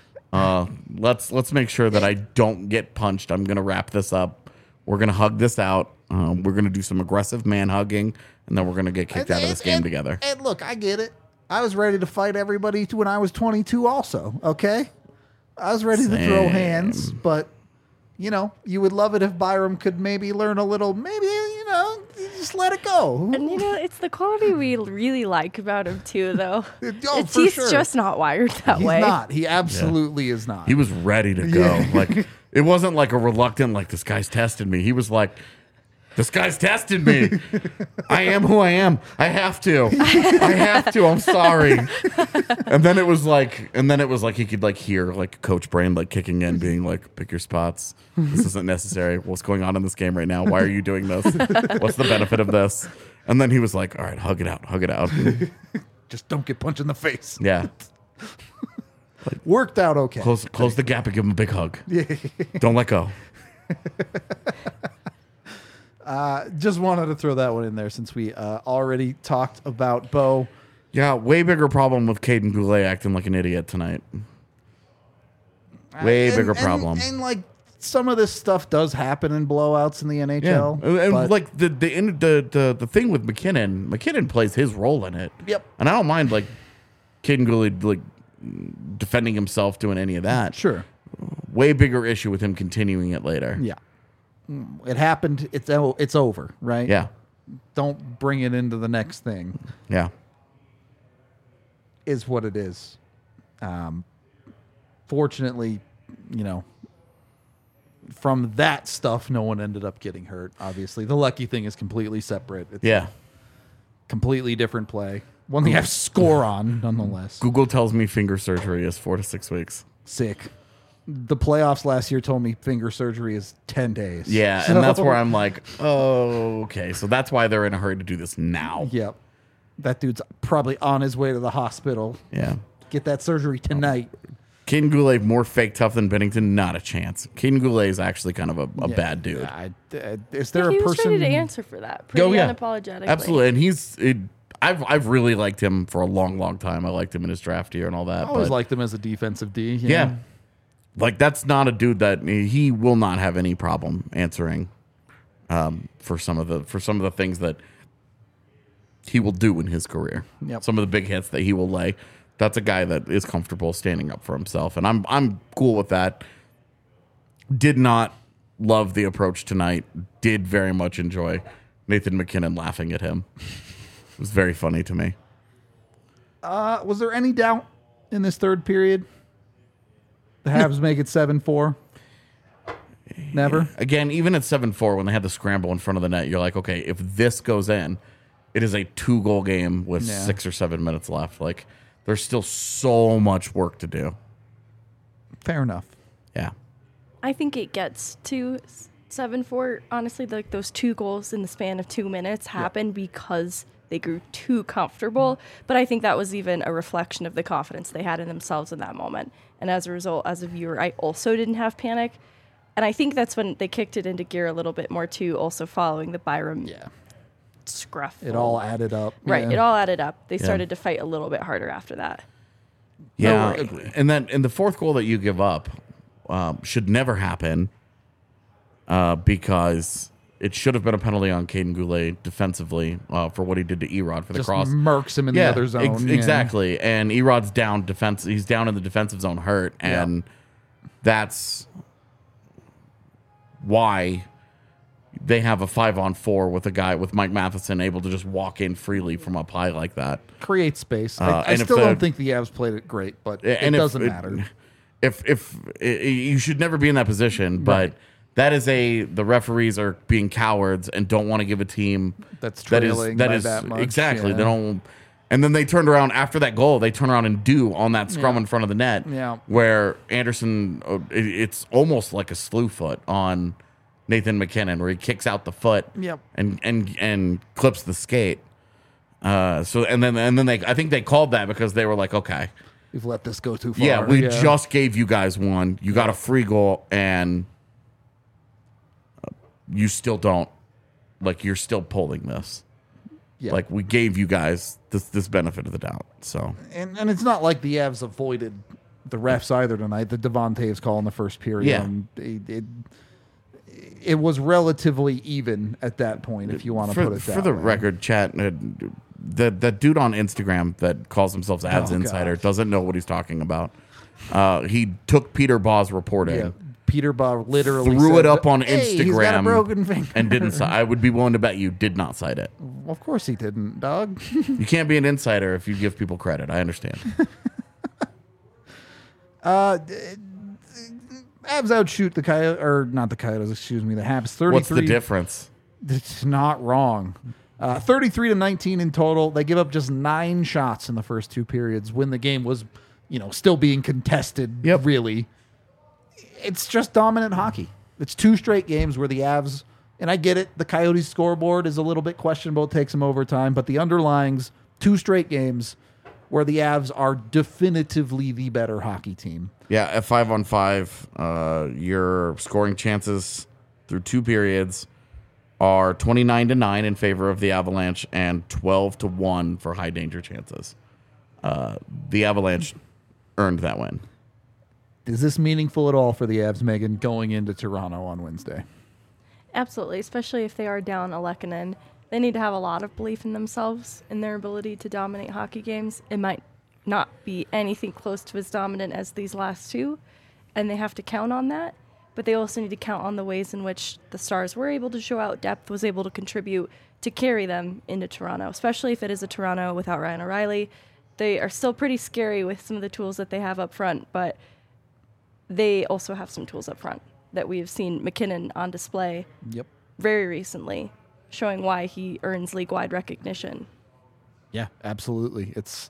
Speaker 1: Uh, let's let's make sure that I don't get punched. I'm gonna wrap this up. We're gonna hug this out. Um, we're gonna do some aggressive man hugging, and then we're gonna get kicked
Speaker 2: And-
Speaker 1: out of this
Speaker 2: and-
Speaker 1: game
Speaker 2: and-
Speaker 1: together.
Speaker 2: And look, I get it. I was ready to fight everybody when I was twenty-two also, okay? I was ready to throw
Speaker 1: Same.
Speaker 2: hands, but, you know, you would love it if Byram could maybe learn a little, maybe, you know, just let it go.
Speaker 3: And you know, it's the quality we really like about him too, though.
Speaker 2: Oh,
Speaker 3: it's,
Speaker 2: for
Speaker 3: he's
Speaker 2: sure.
Speaker 3: just not wired that
Speaker 2: He's
Speaker 3: way.
Speaker 2: not. He absolutely is not.
Speaker 1: He was ready to go.
Speaker 2: Yeah.
Speaker 1: Like it wasn't like a reluctant, like this guy's testing me. He was like, this guy's testing me. I am who I am. I have to. I have to. I'm sorry. And then it was like, and then it was like he could like hear like Coach Brain like kicking in, being like, pick your spots. This isn't necessary. What's going on in this game right now? Why are you doing this? What's the benefit of this? And then he was like, all right, hug it out, hug it out.
Speaker 2: Just don't get punched in the face.
Speaker 1: Yeah.
Speaker 2: Worked out okay.
Speaker 1: Close close the gap and give him a big hug. Don't let go.
Speaker 2: Uh, just wanted to throw that one in there since we uh, already talked about Bo.
Speaker 1: Yeah, way bigger problem with Caden Goulet acting like an idiot tonight. Way
Speaker 2: And-
Speaker 1: bigger
Speaker 2: and-
Speaker 1: problem.
Speaker 2: And, like some of this stuff does happen in blowouts in the N H
Speaker 1: Yeah,
Speaker 2: L.
Speaker 1: and, and
Speaker 2: but-
Speaker 1: like the the, in- the the the thing with McKinnon, McKinnon plays his role in it.
Speaker 2: Yep.
Speaker 1: And I don't mind like Caden Goulet like defending himself, doing any of that.
Speaker 2: Sure.
Speaker 1: Way bigger issue with him continuing it later.
Speaker 2: Yeah. It happened. It's o- it's over, right?
Speaker 1: Yeah.
Speaker 2: Don't bring it into the next thing.
Speaker 1: Yeah.
Speaker 2: Is what it is. Um, fortunately, you know, from that stuff, no one ended up getting hurt. Obviously, the lucky thing is completely separate. It's
Speaker 1: Yeah.
Speaker 2: a completely different play. One they have score on, nonetheless.
Speaker 1: Google tells me finger surgery is four to six weeks.
Speaker 2: Sick. The playoffs last year told me finger surgery is ten days.
Speaker 1: Yeah,
Speaker 2: So-
Speaker 1: and that's where I'm like, oh, okay. So that's why they're in a hurry to do this now.
Speaker 2: Yep. That dude's probably on his way to the hospital.
Speaker 1: Yeah.
Speaker 2: Get that surgery tonight.
Speaker 1: Caden Goulet more fake tough than Bennington? Not a chance. Caden Goulet is actually kind of a, a
Speaker 2: Yeah.
Speaker 1: bad dude.
Speaker 2: I, uh, is there
Speaker 3: he
Speaker 2: a
Speaker 3: was
Speaker 2: person?
Speaker 3: ready to answer for that. Pretty
Speaker 1: Oh, yeah.
Speaker 3: unapologetically.
Speaker 1: Absolutely. And he's, it, I've I've really liked him for a long, long time. I liked him in his draft year and all that.
Speaker 2: I always
Speaker 1: but
Speaker 2: liked him as a defensive D. you
Speaker 1: yeah.
Speaker 2: know?
Speaker 1: Like, that's not a dude that he will not have any problem answering um, for some of the for some of the things that he will do in his career.
Speaker 2: Yep.
Speaker 1: Some of the big hits that he will lay. That's a guy that is comfortable standing up for himself, and I'm I'm cool with that. Did not love the approach tonight. Did very much enjoy Nathan McKinnon laughing at him. It was very funny to me.
Speaker 2: Uh, was there any doubt in this third period? The Habs make it seven four. Never.
Speaker 1: Again, even at seven four, when they had the scramble in front of the net, you're like, okay, if this goes in, it is a two-goal game with
Speaker 2: Yeah.
Speaker 1: six or seven minutes left. Like, there's still so much work to do.
Speaker 2: Fair enough.
Speaker 1: Yeah.
Speaker 3: I think it gets to seven four. Honestly, like those two goals in the span of two minutes happened because they grew too comfortable. But I think that was even a reflection of the confidence they had in themselves in that moment. And as a result, as a viewer, I also didn't have panic. And I think that's when they kicked it into gear a little bit more too, also following the Byram
Speaker 2: Yeah.
Speaker 3: scruff.
Speaker 2: It all added up.
Speaker 3: Right,
Speaker 2: Yeah.
Speaker 3: it all added up. They started to fight a little bit harder after that.
Speaker 1: Yeah.
Speaker 2: I agree.
Speaker 1: And then and the fourth goal that you give up um, should never happen uh, because it should have been a penalty on Caden Goulet defensively uh, for what he did to Erod for the
Speaker 2: Just
Speaker 1: cross.
Speaker 2: murks him in the other zone.
Speaker 1: ex-
Speaker 2: yeah.
Speaker 1: exactly. And Erod's down defense. He's down in the defensive zone, hurt, and that's why they have a five on four with a guy with Mike Matheson able to just walk in freely from up high like that.
Speaker 2: Create space.
Speaker 1: Uh,
Speaker 2: I, I
Speaker 1: and if
Speaker 2: still
Speaker 1: the-
Speaker 2: don't think the Avs played it great, but it
Speaker 1: And if
Speaker 2: doesn't matter.
Speaker 1: If if i- you should never be in that position, but
Speaker 2: Right.
Speaker 1: that is a the referees are being cowards and don't want to give a team
Speaker 2: That's
Speaker 1: that is
Speaker 2: trailing
Speaker 1: that
Speaker 2: by
Speaker 1: is
Speaker 2: that much,
Speaker 1: exactly
Speaker 2: yeah.
Speaker 1: they don't. And then they turned around after that goal. They turn around and do on that scrum
Speaker 2: Yeah.
Speaker 1: in front of the net,
Speaker 2: Yeah.
Speaker 1: where Anderson, uh, it- it's almost like a slew foot on Nathan McKinnon, where he kicks out the foot,
Speaker 2: Yep.
Speaker 1: and and and clips the skate. Uh, so and then and then they, I think they called that because they were like, okay,
Speaker 2: We've let this go too far.
Speaker 1: yeah, we just gave you guys one. You got a free goal, and uh, you still don't like. You're still pulling this.
Speaker 2: Yeah.
Speaker 1: Like, we gave you guys this this benefit of the doubt. So
Speaker 2: and and it's not like the Avs avoided the refs either tonight. The Devon Taves call in the first period.
Speaker 1: Yeah.
Speaker 2: um, it, it, it was relatively even at that point, if you want to
Speaker 1: for,
Speaker 2: put it that
Speaker 1: for the
Speaker 2: way.
Speaker 1: record, chat, uh, the that dude on Instagram that calls himself Ads
Speaker 2: Oh,
Speaker 1: Insider
Speaker 2: God.
Speaker 1: doesn't know what he's talking about. Uh, he took Peter Baugh's reporting.
Speaker 2: Yeah. Peter Baugh literally
Speaker 1: Threw
Speaker 2: said,
Speaker 1: it up on
Speaker 2: "Hey, he's got a
Speaker 1: Instagram
Speaker 2: broken finger."
Speaker 1: and didn't. ci- I would be willing to bet you did not cite it.
Speaker 2: Of course he didn't, dog.
Speaker 1: You can't be an insider if you give people credit. I understand.
Speaker 2: uh, d- Avs outshoot the Coyotes, or not the Coyotes, excuse me, the Habs thirty-three.
Speaker 1: What's the difference?
Speaker 2: It's not wrong. Uh, thirty-three to nineteen in total. They give up just nine shots in the first two periods when the game was, you know, still being contested.
Speaker 1: Yep.
Speaker 2: Really, it's just dominant hockey. It's two straight games where the Avs, and I get it, the Coyotes scoreboard is a little bit questionable. It takes them overtime, but the underlyings, two straight games where the Avs are definitively the better hockey team.
Speaker 1: Yeah, at five on five, uh, your scoring chances through two periods are twenty-nine to nine in favor of the Avalanche and twelve to one for high danger chances. Uh, the Avalanche earned that win.
Speaker 2: Is this meaningful at all for the Avs, Megan, going into Toronto on Wednesday?
Speaker 3: Absolutely, especially if they are down a Lehkonen. They need to have a lot of belief in themselves, in their ability to dominate hockey games. It might not be anything close to as dominant as these last two, and they have to count on that. But they also need to count on the ways in which the Stars were able to show out depth, was able to contribute to carry them into Toronto, especially if it is a Toronto without Ryan O'Reilly. They are still pretty scary with some of the tools that they have up front, but they also have some tools up front that we have seen McKinnon on display
Speaker 2: Yep.
Speaker 3: very recently, showing why he earns league-wide recognition.
Speaker 2: Yeah, absolutely. It's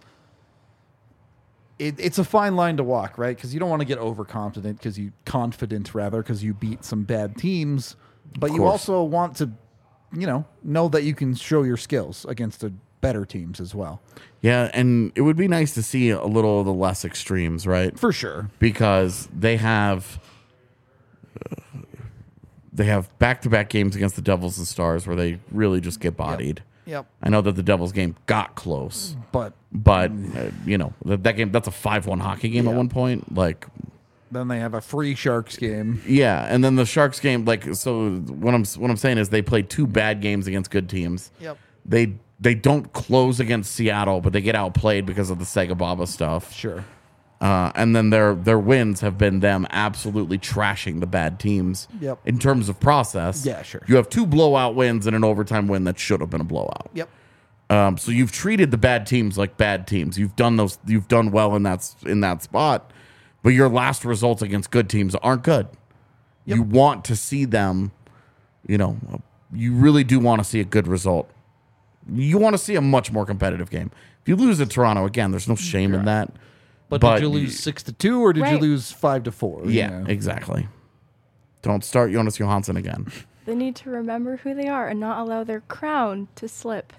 Speaker 2: it, it's a fine line to walk, right? Because you don't want to get overconfident because you confident rather because you beat some bad teams, but you
Speaker 1: course.
Speaker 2: also want to, you know, know that you can show your skills against the better teams as well.
Speaker 1: Yeah, and it would be nice to see a little of the less extremes, right?
Speaker 2: For sure.
Speaker 1: Because they have uh, they have back-to-back games against the Devils and Stars where they really just get bodied.
Speaker 2: Yep.
Speaker 1: I know that the Devils game got close,
Speaker 2: But
Speaker 1: but uh, you know that, that game that's a five one hockey game
Speaker 2: Yeah.
Speaker 1: at one point. Like,
Speaker 2: then they have a free Sharks game.
Speaker 1: yeah, and then the Sharks game. Like, so what I'm what I'm saying is they played two bad games against good teams.
Speaker 2: Yep.
Speaker 1: They they don't close against Seattle, but they get outplayed because of the Segababa stuff.
Speaker 2: Sure.
Speaker 1: Uh, and then their their wins have been them absolutely trashing the bad teams.
Speaker 2: Yep.
Speaker 1: In terms of process,
Speaker 2: Yeah, sure.
Speaker 1: You have two blowout wins and an overtime win that should have been a blowout.
Speaker 2: Yep.
Speaker 1: Um, so you've treated the bad teams like bad teams. You've done those. You've done well in that s- in that spot, but your last results against good teams aren't good.
Speaker 2: Yep.
Speaker 1: You want to see them. You know, you really do want to see a good result. You want to see a much more competitive game. If you lose at Toronto again, there's no shame in that.
Speaker 2: But,
Speaker 1: But
Speaker 2: did you lose six to two or did you
Speaker 3: Right.
Speaker 2: lose five to four?
Speaker 1: Yeah, exactly. Don't start Jonas Johansson again.
Speaker 3: They need to remember who they are and not allow their crown to slip.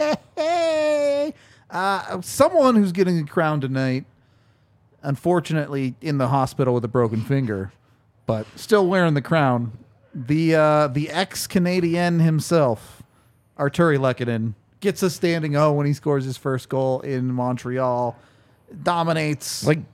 Speaker 2: Hey, uh, someone who's getting a crown tonight, unfortunately in the hospital with a broken finger, but still wearing the crown. The uh, the ex-Canadian himself, Arturi Lehkonen, gets a standing O when he scores his first goal in Montreal. Dominates.
Speaker 1: Like,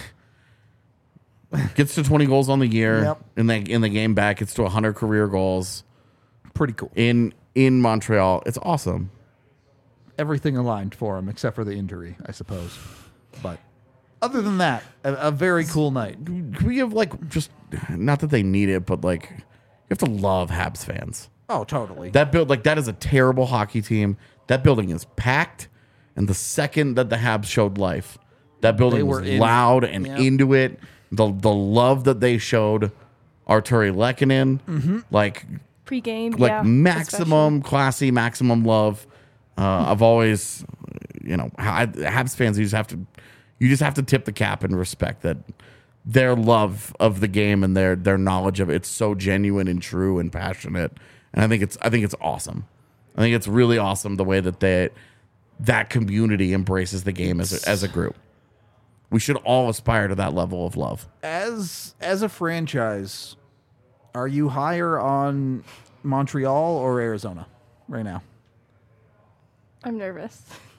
Speaker 1: gets to twenty goals on the year
Speaker 2: Yep.
Speaker 1: in the in the game back. Gets to one hundred career goals
Speaker 2: Pretty cool.
Speaker 1: in in Montreal. It's awesome.
Speaker 2: Everything aligned for him except for the injury, I suppose. But other than that, a, a very cool night.
Speaker 1: Can we have like just not that they need it, but like you have to love Habs fans.
Speaker 2: Oh, totally.
Speaker 1: That build like that is a terrible hockey team. That building is packed, and the second that the Habs showed life, that building
Speaker 2: They
Speaker 1: was
Speaker 2: were in-
Speaker 1: loud and
Speaker 2: Yep.
Speaker 1: into it. The the love that they showed Arturi Lehkonen,
Speaker 2: Mm-hmm.
Speaker 1: like
Speaker 3: Pre-game,
Speaker 1: like
Speaker 3: yeah,
Speaker 1: maximum classy, maximum love. Uh, I've always, you know, I, Habs fans. You just have to, you just have to tip the cap and respect that their love of the game and their their knowledge of it, it's so genuine and true and passionate. And I think it's I think it's awesome. I think it's really awesome the way that they that community embraces the game as a, as a group. We should all aspire to that level of love.
Speaker 2: as as a franchise, are you higher on Montreal or Arizona right now?
Speaker 3: I'm nervous.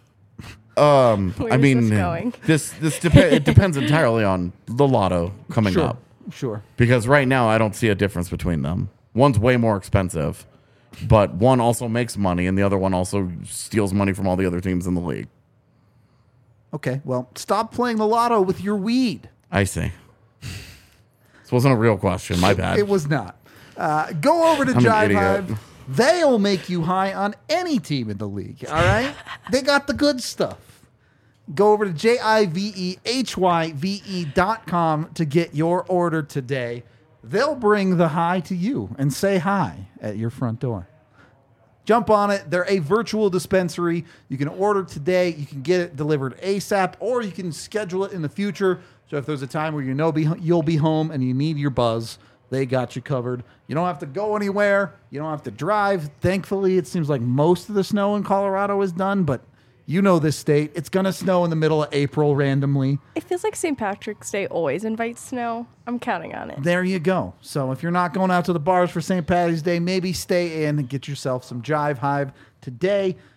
Speaker 1: Um,
Speaker 3: Where
Speaker 1: I
Speaker 3: is
Speaker 1: mean,
Speaker 3: this going?
Speaker 1: this this depe- it depends entirely on the lotto coming
Speaker 2: Sure,
Speaker 1: up.
Speaker 2: sure.
Speaker 1: Because right now I don't see a difference between them. One's way more expensive, but one also makes money, and the other one also steals money from all the other teams in the league.
Speaker 2: Okay, well, stop playing the lotto with your weed.
Speaker 1: I see. This wasn't a real question. My bad.
Speaker 2: It was not. Uh, go over to
Speaker 1: I'm an
Speaker 2: Jive
Speaker 1: idiot.
Speaker 2: Hive. They'll make you high on any team in the league. All right, they got the good stuff. Go over to J I V E H Y V E dot com to get your order today. They'll bring the high to you and say hi at your front door. Jump on it. They're a virtual dispensary. You can order today. You can get it delivered ASAP, or you can schedule it in the future. So if there's a time where you know be, you'll be home and you need your buzz, they got you covered. You don't have to go anywhere. You don't have to drive. Thankfully, it seems like most of the snow in Colorado is done, but you know this state. It's going to snow in the middle of April randomly.
Speaker 3: It feels like Saint Patrick's Day always invites snow. I'm counting on it.
Speaker 2: There you go. So if you're not going out to the bars for Saint Patty's Day, maybe stay in and get yourself some Jive Hive today.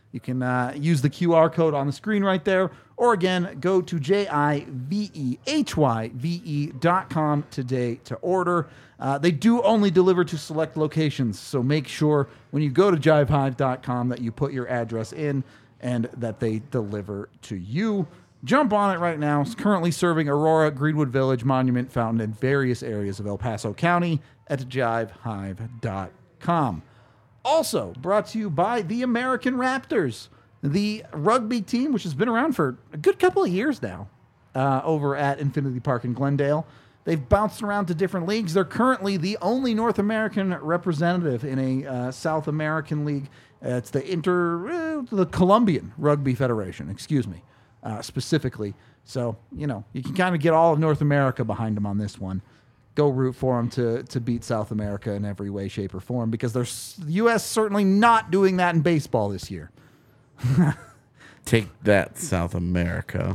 Speaker 2: You can uh, use the Q R code on the screen right there. Or again, go to J I V E H Y V E dot com today to order. Uh, they do only deliver to select locations, so make sure when you go to jive hive dot com that you put your address in and that they deliver to you. Jump on it right now. It's currently serving Aurora, Greenwood Village, Monument, Fountain, and various areas of El Paso County at jive hive dot com. Also brought to you by the American Raptors, the rugby team, which has been around for a good couple of years now, uh, over at Infinity Park in Glendale. They've bounced around to different leagues. They're currently the only North American representative in a uh, South American league. Uh, it's the Inter, uh, the Colombian Rugby Federation, excuse me, uh, specifically. So, you know, you can kind of get all of North America behind them on this one. Go root for them to, to beat South America in every way, shape, or form, because there's the U S certainly not doing that in baseball this year.
Speaker 1: Take that, South America.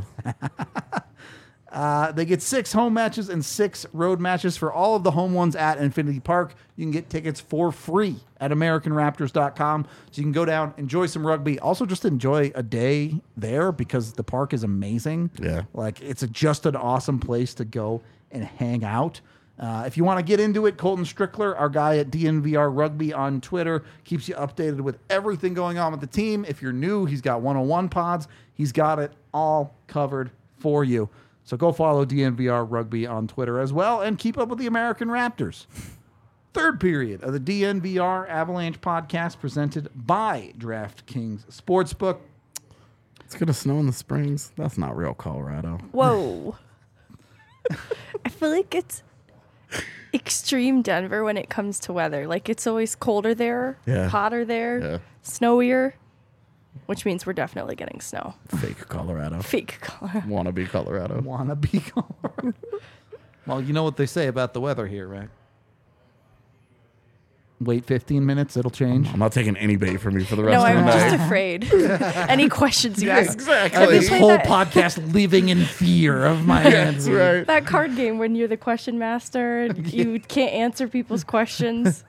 Speaker 2: Uh, they get six home matches and six road matches for all of the home ones at Infinity Park. You can get tickets for free at American Raptors dot com. So you can go down, enjoy some rugby. Also, just enjoy a day there because the park is amazing.
Speaker 1: Yeah.
Speaker 2: Like, it's a, just an awesome place to go and hang out. Uh, if you want to get into it, Colton Strickler, our guy at D N V R Rugby on Twitter, keeps you updated with everything going on with the team. If you're new, he's got one oh one pods. He's got it all covered for you. So go follow D N V R Rugby on Twitter as well and keep up with the American Raptors. Third period of the D N V R Avalanche podcast presented by DraftKings Sportsbook.
Speaker 1: It's going to snow in the Springs. That's not real Colorado.
Speaker 3: Whoa. I feel like it's extreme Denver when it comes to weather. Like, it's always colder there,
Speaker 1: Yeah.
Speaker 3: hotter there,
Speaker 1: Yeah.
Speaker 3: snowier, which means we're definitely getting snow.
Speaker 1: Fake Colorado.
Speaker 3: Fake color.
Speaker 1: Wannabe Colorado.
Speaker 2: Wanna be Colorado. Well, you know what they say about the weather here, right? Wait fifteen minutes, it'll change.
Speaker 1: I'm not taking any bait from you for the rest
Speaker 3: No,
Speaker 1: of the
Speaker 3: I'm
Speaker 1: night.
Speaker 3: just afraid. Any questions you ask.
Speaker 1: Exactly.
Speaker 2: This
Speaker 3: play
Speaker 2: whole
Speaker 3: that-
Speaker 2: podcast living in fear of my
Speaker 1: That's
Speaker 2: answer.
Speaker 1: right.
Speaker 3: That card game when you're the question master and you can't answer people's questions.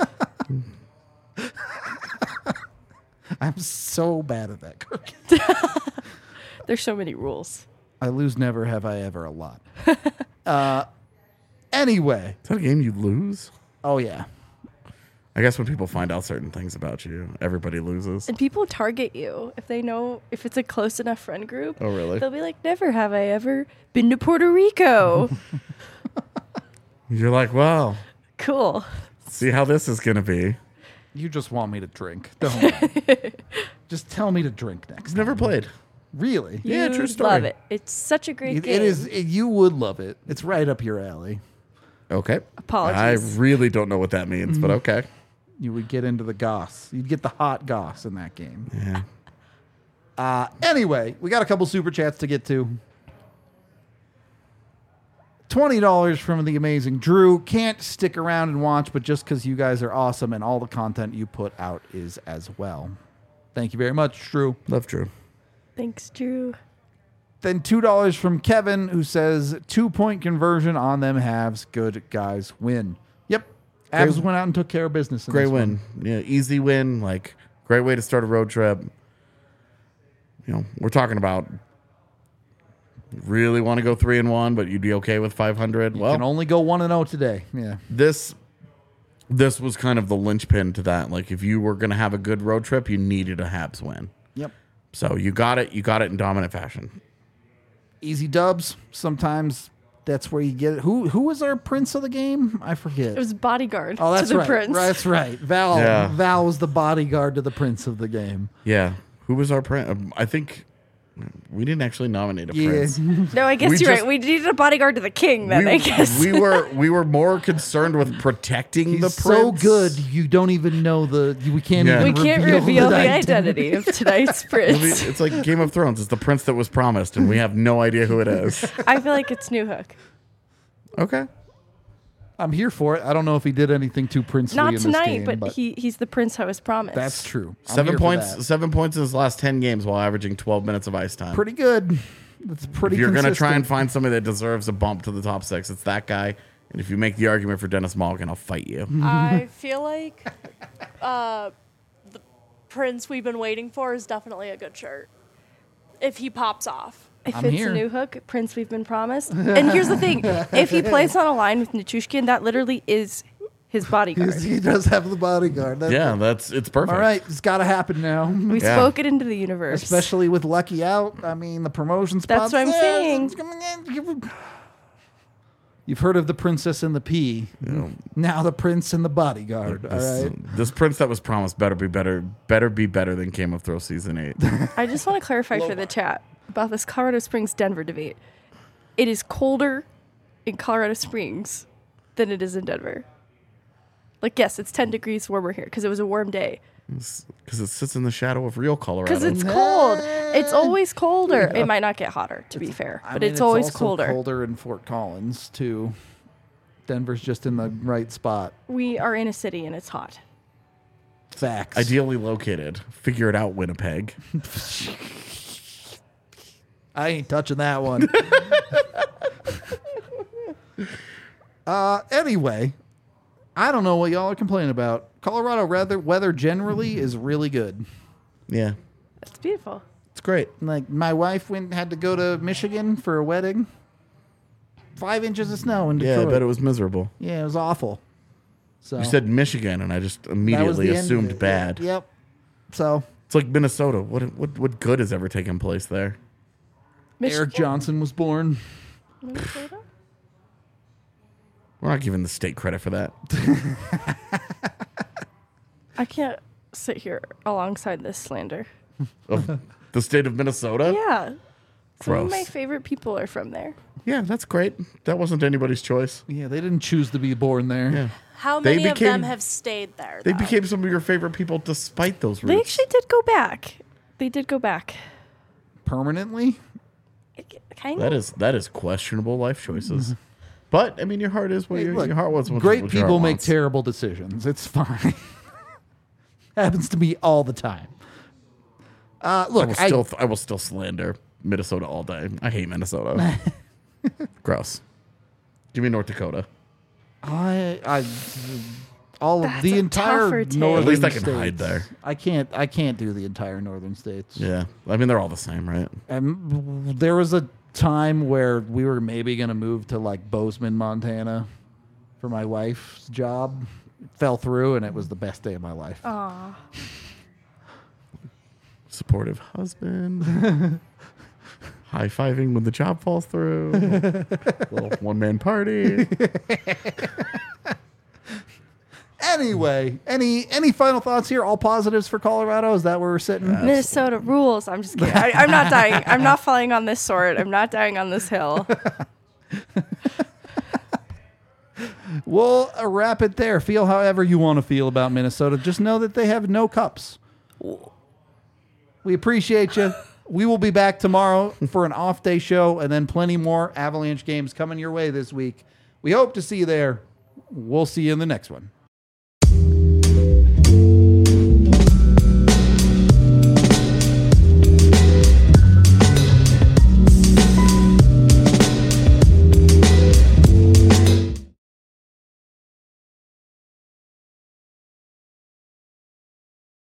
Speaker 2: I'm so bad at that cookie.
Speaker 3: There's so many rules.
Speaker 2: I lose never have I ever a lot. uh, anyway.
Speaker 1: Is that a game you lose?
Speaker 2: Oh, yeah.
Speaker 1: I guess when people find out certain things about you, everybody loses.
Speaker 3: And people target you if they know if it's a close enough friend group.
Speaker 1: Oh, really?
Speaker 3: They'll be like, never have I ever been to Puerto Rico.
Speaker 1: You're like, well,
Speaker 3: Cool.
Speaker 1: see how this is going to be.
Speaker 2: You just want me to drink. Don't you? Just tell me to drink next
Speaker 1: I've never
Speaker 2: time.
Speaker 1: played.
Speaker 2: Really?
Speaker 1: Yeah, true
Speaker 3: You'd
Speaker 1: story.
Speaker 3: Love it. It's such a great
Speaker 2: It,
Speaker 3: game.
Speaker 2: it is. It, you would love it. It's right up your alley.
Speaker 1: Okay.
Speaker 3: Apologies.
Speaker 1: I really don't know what that means, but okay.
Speaker 2: You would get into the goss. You'd get the hot goss in that game.
Speaker 1: Yeah.
Speaker 2: Uh, anyway, we got a couple super chats to get to. twenty dollars from the amazing Drew. Can't stick around and watch, but just because you guys are awesome and all the content you put out is as well. Thank you very much, Drew.
Speaker 1: Love Drew.
Speaker 3: Thanks, Drew.
Speaker 2: Then two dollars from Kevin, who says two-point conversion on them halves. Good guys win. Yep. Avs
Speaker 1: Great-
Speaker 2: went out and took care of business. In
Speaker 1: Great
Speaker 2: this
Speaker 1: win.
Speaker 2: one.
Speaker 1: Yeah, easy win. Like, great way to start a road trip. You know, we're talking about really want to go three and one, but you'd be okay with five hundred.
Speaker 2: You
Speaker 1: Well,
Speaker 2: can only go one and zero today. Yeah.
Speaker 1: this this was kind of the linchpin to that. Like, if you were going to have a good road trip, you needed a Habs win.
Speaker 2: Yep.
Speaker 1: So you got it. You got it in dominant fashion.
Speaker 2: Easy dubs. Sometimes that's where you get it. Who who was our prince of the game? I forget.
Speaker 3: It was bodyguard
Speaker 2: oh, that's
Speaker 3: to the
Speaker 2: right.
Speaker 3: prince.
Speaker 2: That's right. Val.
Speaker 1: Yeah.
Speaker 2: Val was the bodyguard to the prince of the game.
Speaker 1: Yeah. Who was our prince? Um, I think we didn't actually nominate a
Speaker 2: Yeah.
Speaker 1: prince.
Speaker 3: No, I guess
Speaker 1: We
Speaker 3: you're
Speaker 1: just-
Speaker 3: right. We needed a bodyguard to the king then,
Speaker 1: we,
Speaker 3: I guess.
Speaker 1: we were we were more concerned with protecting
Speaker 2: He's
Speaker 1: the
Speaker 2: so
Speaker 1: prince.
Speaker 2: good. You don't even know the. We can't.
Speaker 1: Yeah.
Speaker 2: Even
Speaker 3: we can't
Speaker 2: reveal,
Speaker 3: reveal the
Speaker 2: identity.
Speaker 3: identity of tonight's
Speaker 1: It'll be-
Speaker 3: prince.
Speaker 1: It's like Game of Thrones. It's the prince that was promised, and we have no idea who it is.
Speaker 3: I feel like it's New Hook.
Speaker 1: Okay.
Speaker 2: I'm here for it. I don't know if he did anything too princely
Speaker 3: Not
Speaker 2: in this
Speaker 3: tonight,
Speaker 2: game,
Speaker 3: but,
Speaker 2: but
Speaker 3: he, he's the prince I was promised.
Speaker 2: that's true. I'm
Speaker 1: Seven
Speaker 2: here for
Speaker 1: points.
Speaker 2: that.
Speaker 1: Seven points in his last ten games, while averaging twelve minutes of ice time.
Speaker 2: Pretty good. That's pretty.
Speaker 1: if you're gonna try and
Speaker 2: consistent.
Speaker 1: find somebody that deserves a bump to the top six, it's that guy. And if you make the argument for Dennis Malkin, I'll fight you.
Speaker 4: I feel like uh, the Prince we've been waiting for is definitely a good shirt. If he pops off.
Speaker 3: If
Speaker 2: I'm
Speaker 3: it's
Speaker 2: here.
Speaker 3: a new hook, Prince we've been promised. And here's the thing. If he plays on a line with Nichushkin, that literally is his bodyguard.
Speaker 2: He's- he does have the bodyguard. That's
Speaker 1: Yeah, that's it's perfect.
Speaker 2: All right, it's got to happen now.
Speaker 3: We
Speaker 1: Yeah.
Speaker 3: spoke it into the universe.
Speaker 2: Especially with Lucky out. I mean, the promotion
Speaker 3: That's
Speaker 2: spots
Speaker 3: what I'm
Speaker 2: there.
Speaker 3: saying.
Speaker 2: You've heard of the Princess and the Pea. Now the Prince and the Bodyguard. All
Speaker 1: This,
Speaker 2: right.
Speaker 1: this Prince that was promised better be better. Better be better than Game of Thrones season eight.
Speaker 3: I just want to clarify for the chat about this Colorado Springs Denver debate. It is colder in Colorado Springs than it is in Denver. Like, yes, it's ten degrees warmer here because it was a warm day.
Speaker 1: Because it sits in the shadow of real Colorado.
Speaker 3: Because it's cold. It's always colder. It might not get hotter, to be fair,
Speaker 2: I
Speaker 3: but
Speaker 2: mean,
Speaker 3: it's always
Speaker 2: also
Speaker 3: colder.
Speaker 2: colder in Fort Collins, too. Denver's just in the right spot.
Speaker 3: We are in a city and it's hot.
Speaker 2: Facts.
Speaker 1: Ideally located. Figure it out, Winnipeg.
Speaker 2: I ain't touching that one. uh, anyway, I don't know what y'all are complaining about. Colorado weather, weather generally is really good.
Speaker 1: Yeah,
Speaker 3: It's beautiful.
Speaker 1: it's great.
Speaker 2: Like, my wife went had to go to Michigan for a wedding. Five inches of snow in
Speaker 1: Yeah,
Speaker 2: Detroit.
Speaker 1: I bet it was miserable.
Speaker 2: Yeah, it was awful. So
Speaker 1: You said Michigan, and I just
Speaker 2: that was
Speaker 1: immediately
Speaker 2: the end of
Speaker 1: assumed
Speaker 2: it.
Speaker 1: bad.
Speaker 2: Yep. So
Speaker 1: It's like Minnesota. What what what good has ever taken place there?
Speaker 2: Eric Johnson was born.
Speaker 3: Minnesota?
Speaker 1: We're not giving the state credit for that.
Speaker 3: I can't sit here alongside this slander.
Speaker 1: Of the state of Minnesota?
Speaker 3: Yeah. Some of
Speaker 1: Gross.
Speaker 3: my favorite people are from there.
Speaker 1: Yeah, that's great. That wasn't anybody's choice.
Speaker 2: Yeah, they didn't choose to be born there.
Speaker 1: Yeah.
Speaker 4: How
Speaker 1: They
Speaker 4: many of them
Speaker 1: became-
Speaker 4: have stayed there?
Speaker 1: They
Speaker 4: though?
Speaker 1: became some of your favorite people despite those roots.
Speaker 3: They actually did go back. They did go back.
Speaker 2: Permanently?
Speaker 3: Kind
Speaker 1: That
Speaker 3: of.
Speaker 1: is that is questionable life choices. But I mean, your heart is what
Speaker 2: Hey,
Speaker 1: your,
Speaker 2: look,
Speaker 1: your heart wants. What
Speaker 2: Great
Speaker 1: what your
Speaker 2: people
Speaker 1: heart
Speaker 2: make
Speaker 1: wants.
Speaker 2: terrible decisions. It's fine. Happens to me all the time. Uh,
Speaker 1: I
Speaker 2: look,
Speaker 1: will
Speaker 2: I,
Speaker 1: still I will still slander Minnesota all day. I hate Minnesota. Gross. Give me North Dakota.
Speaker 2: I, I, all of
Speaker 3: That's
Speaker 2: the
Speaker 3: a
Speaker 2: entire
Speaker 3: tougher take.
Speaker 2: northern
Speaker 1: At least I can
Speaker 2: states.
Speaker 1: hide there.
Speaker 2: I can't. I can't do the entire northern states.
Speaker 1: Yeah, I mean they're all the same, right?
Speaker 2: And there was a time where we were maybe going to move to like Bozeman, Montana, for my wife's job. It fell through, and it was the best day of my life.
Speaker 3: Aw.
Speaker 1: Supportive husband. High fiving when the job falls through. Little one man party.
Speaker 2: Anyway, any any final thoughts here? All positives for Colorado? Is that where we're sitting?
Speaker 3: Minnesota rules. I'm just kidding. I, I'm not dying. I'm not falling on this sword. I'm not dying on this hill.
Speaker 2: We'll uh, wrap it there. Feel however you want to feel about Minnesota. Just know that they have no cups. We appreciate you. We will be back tomorrow for an off day show and then plenty more Avalanche games coming your way this week. We hope to see you there. We'll see you in the next one.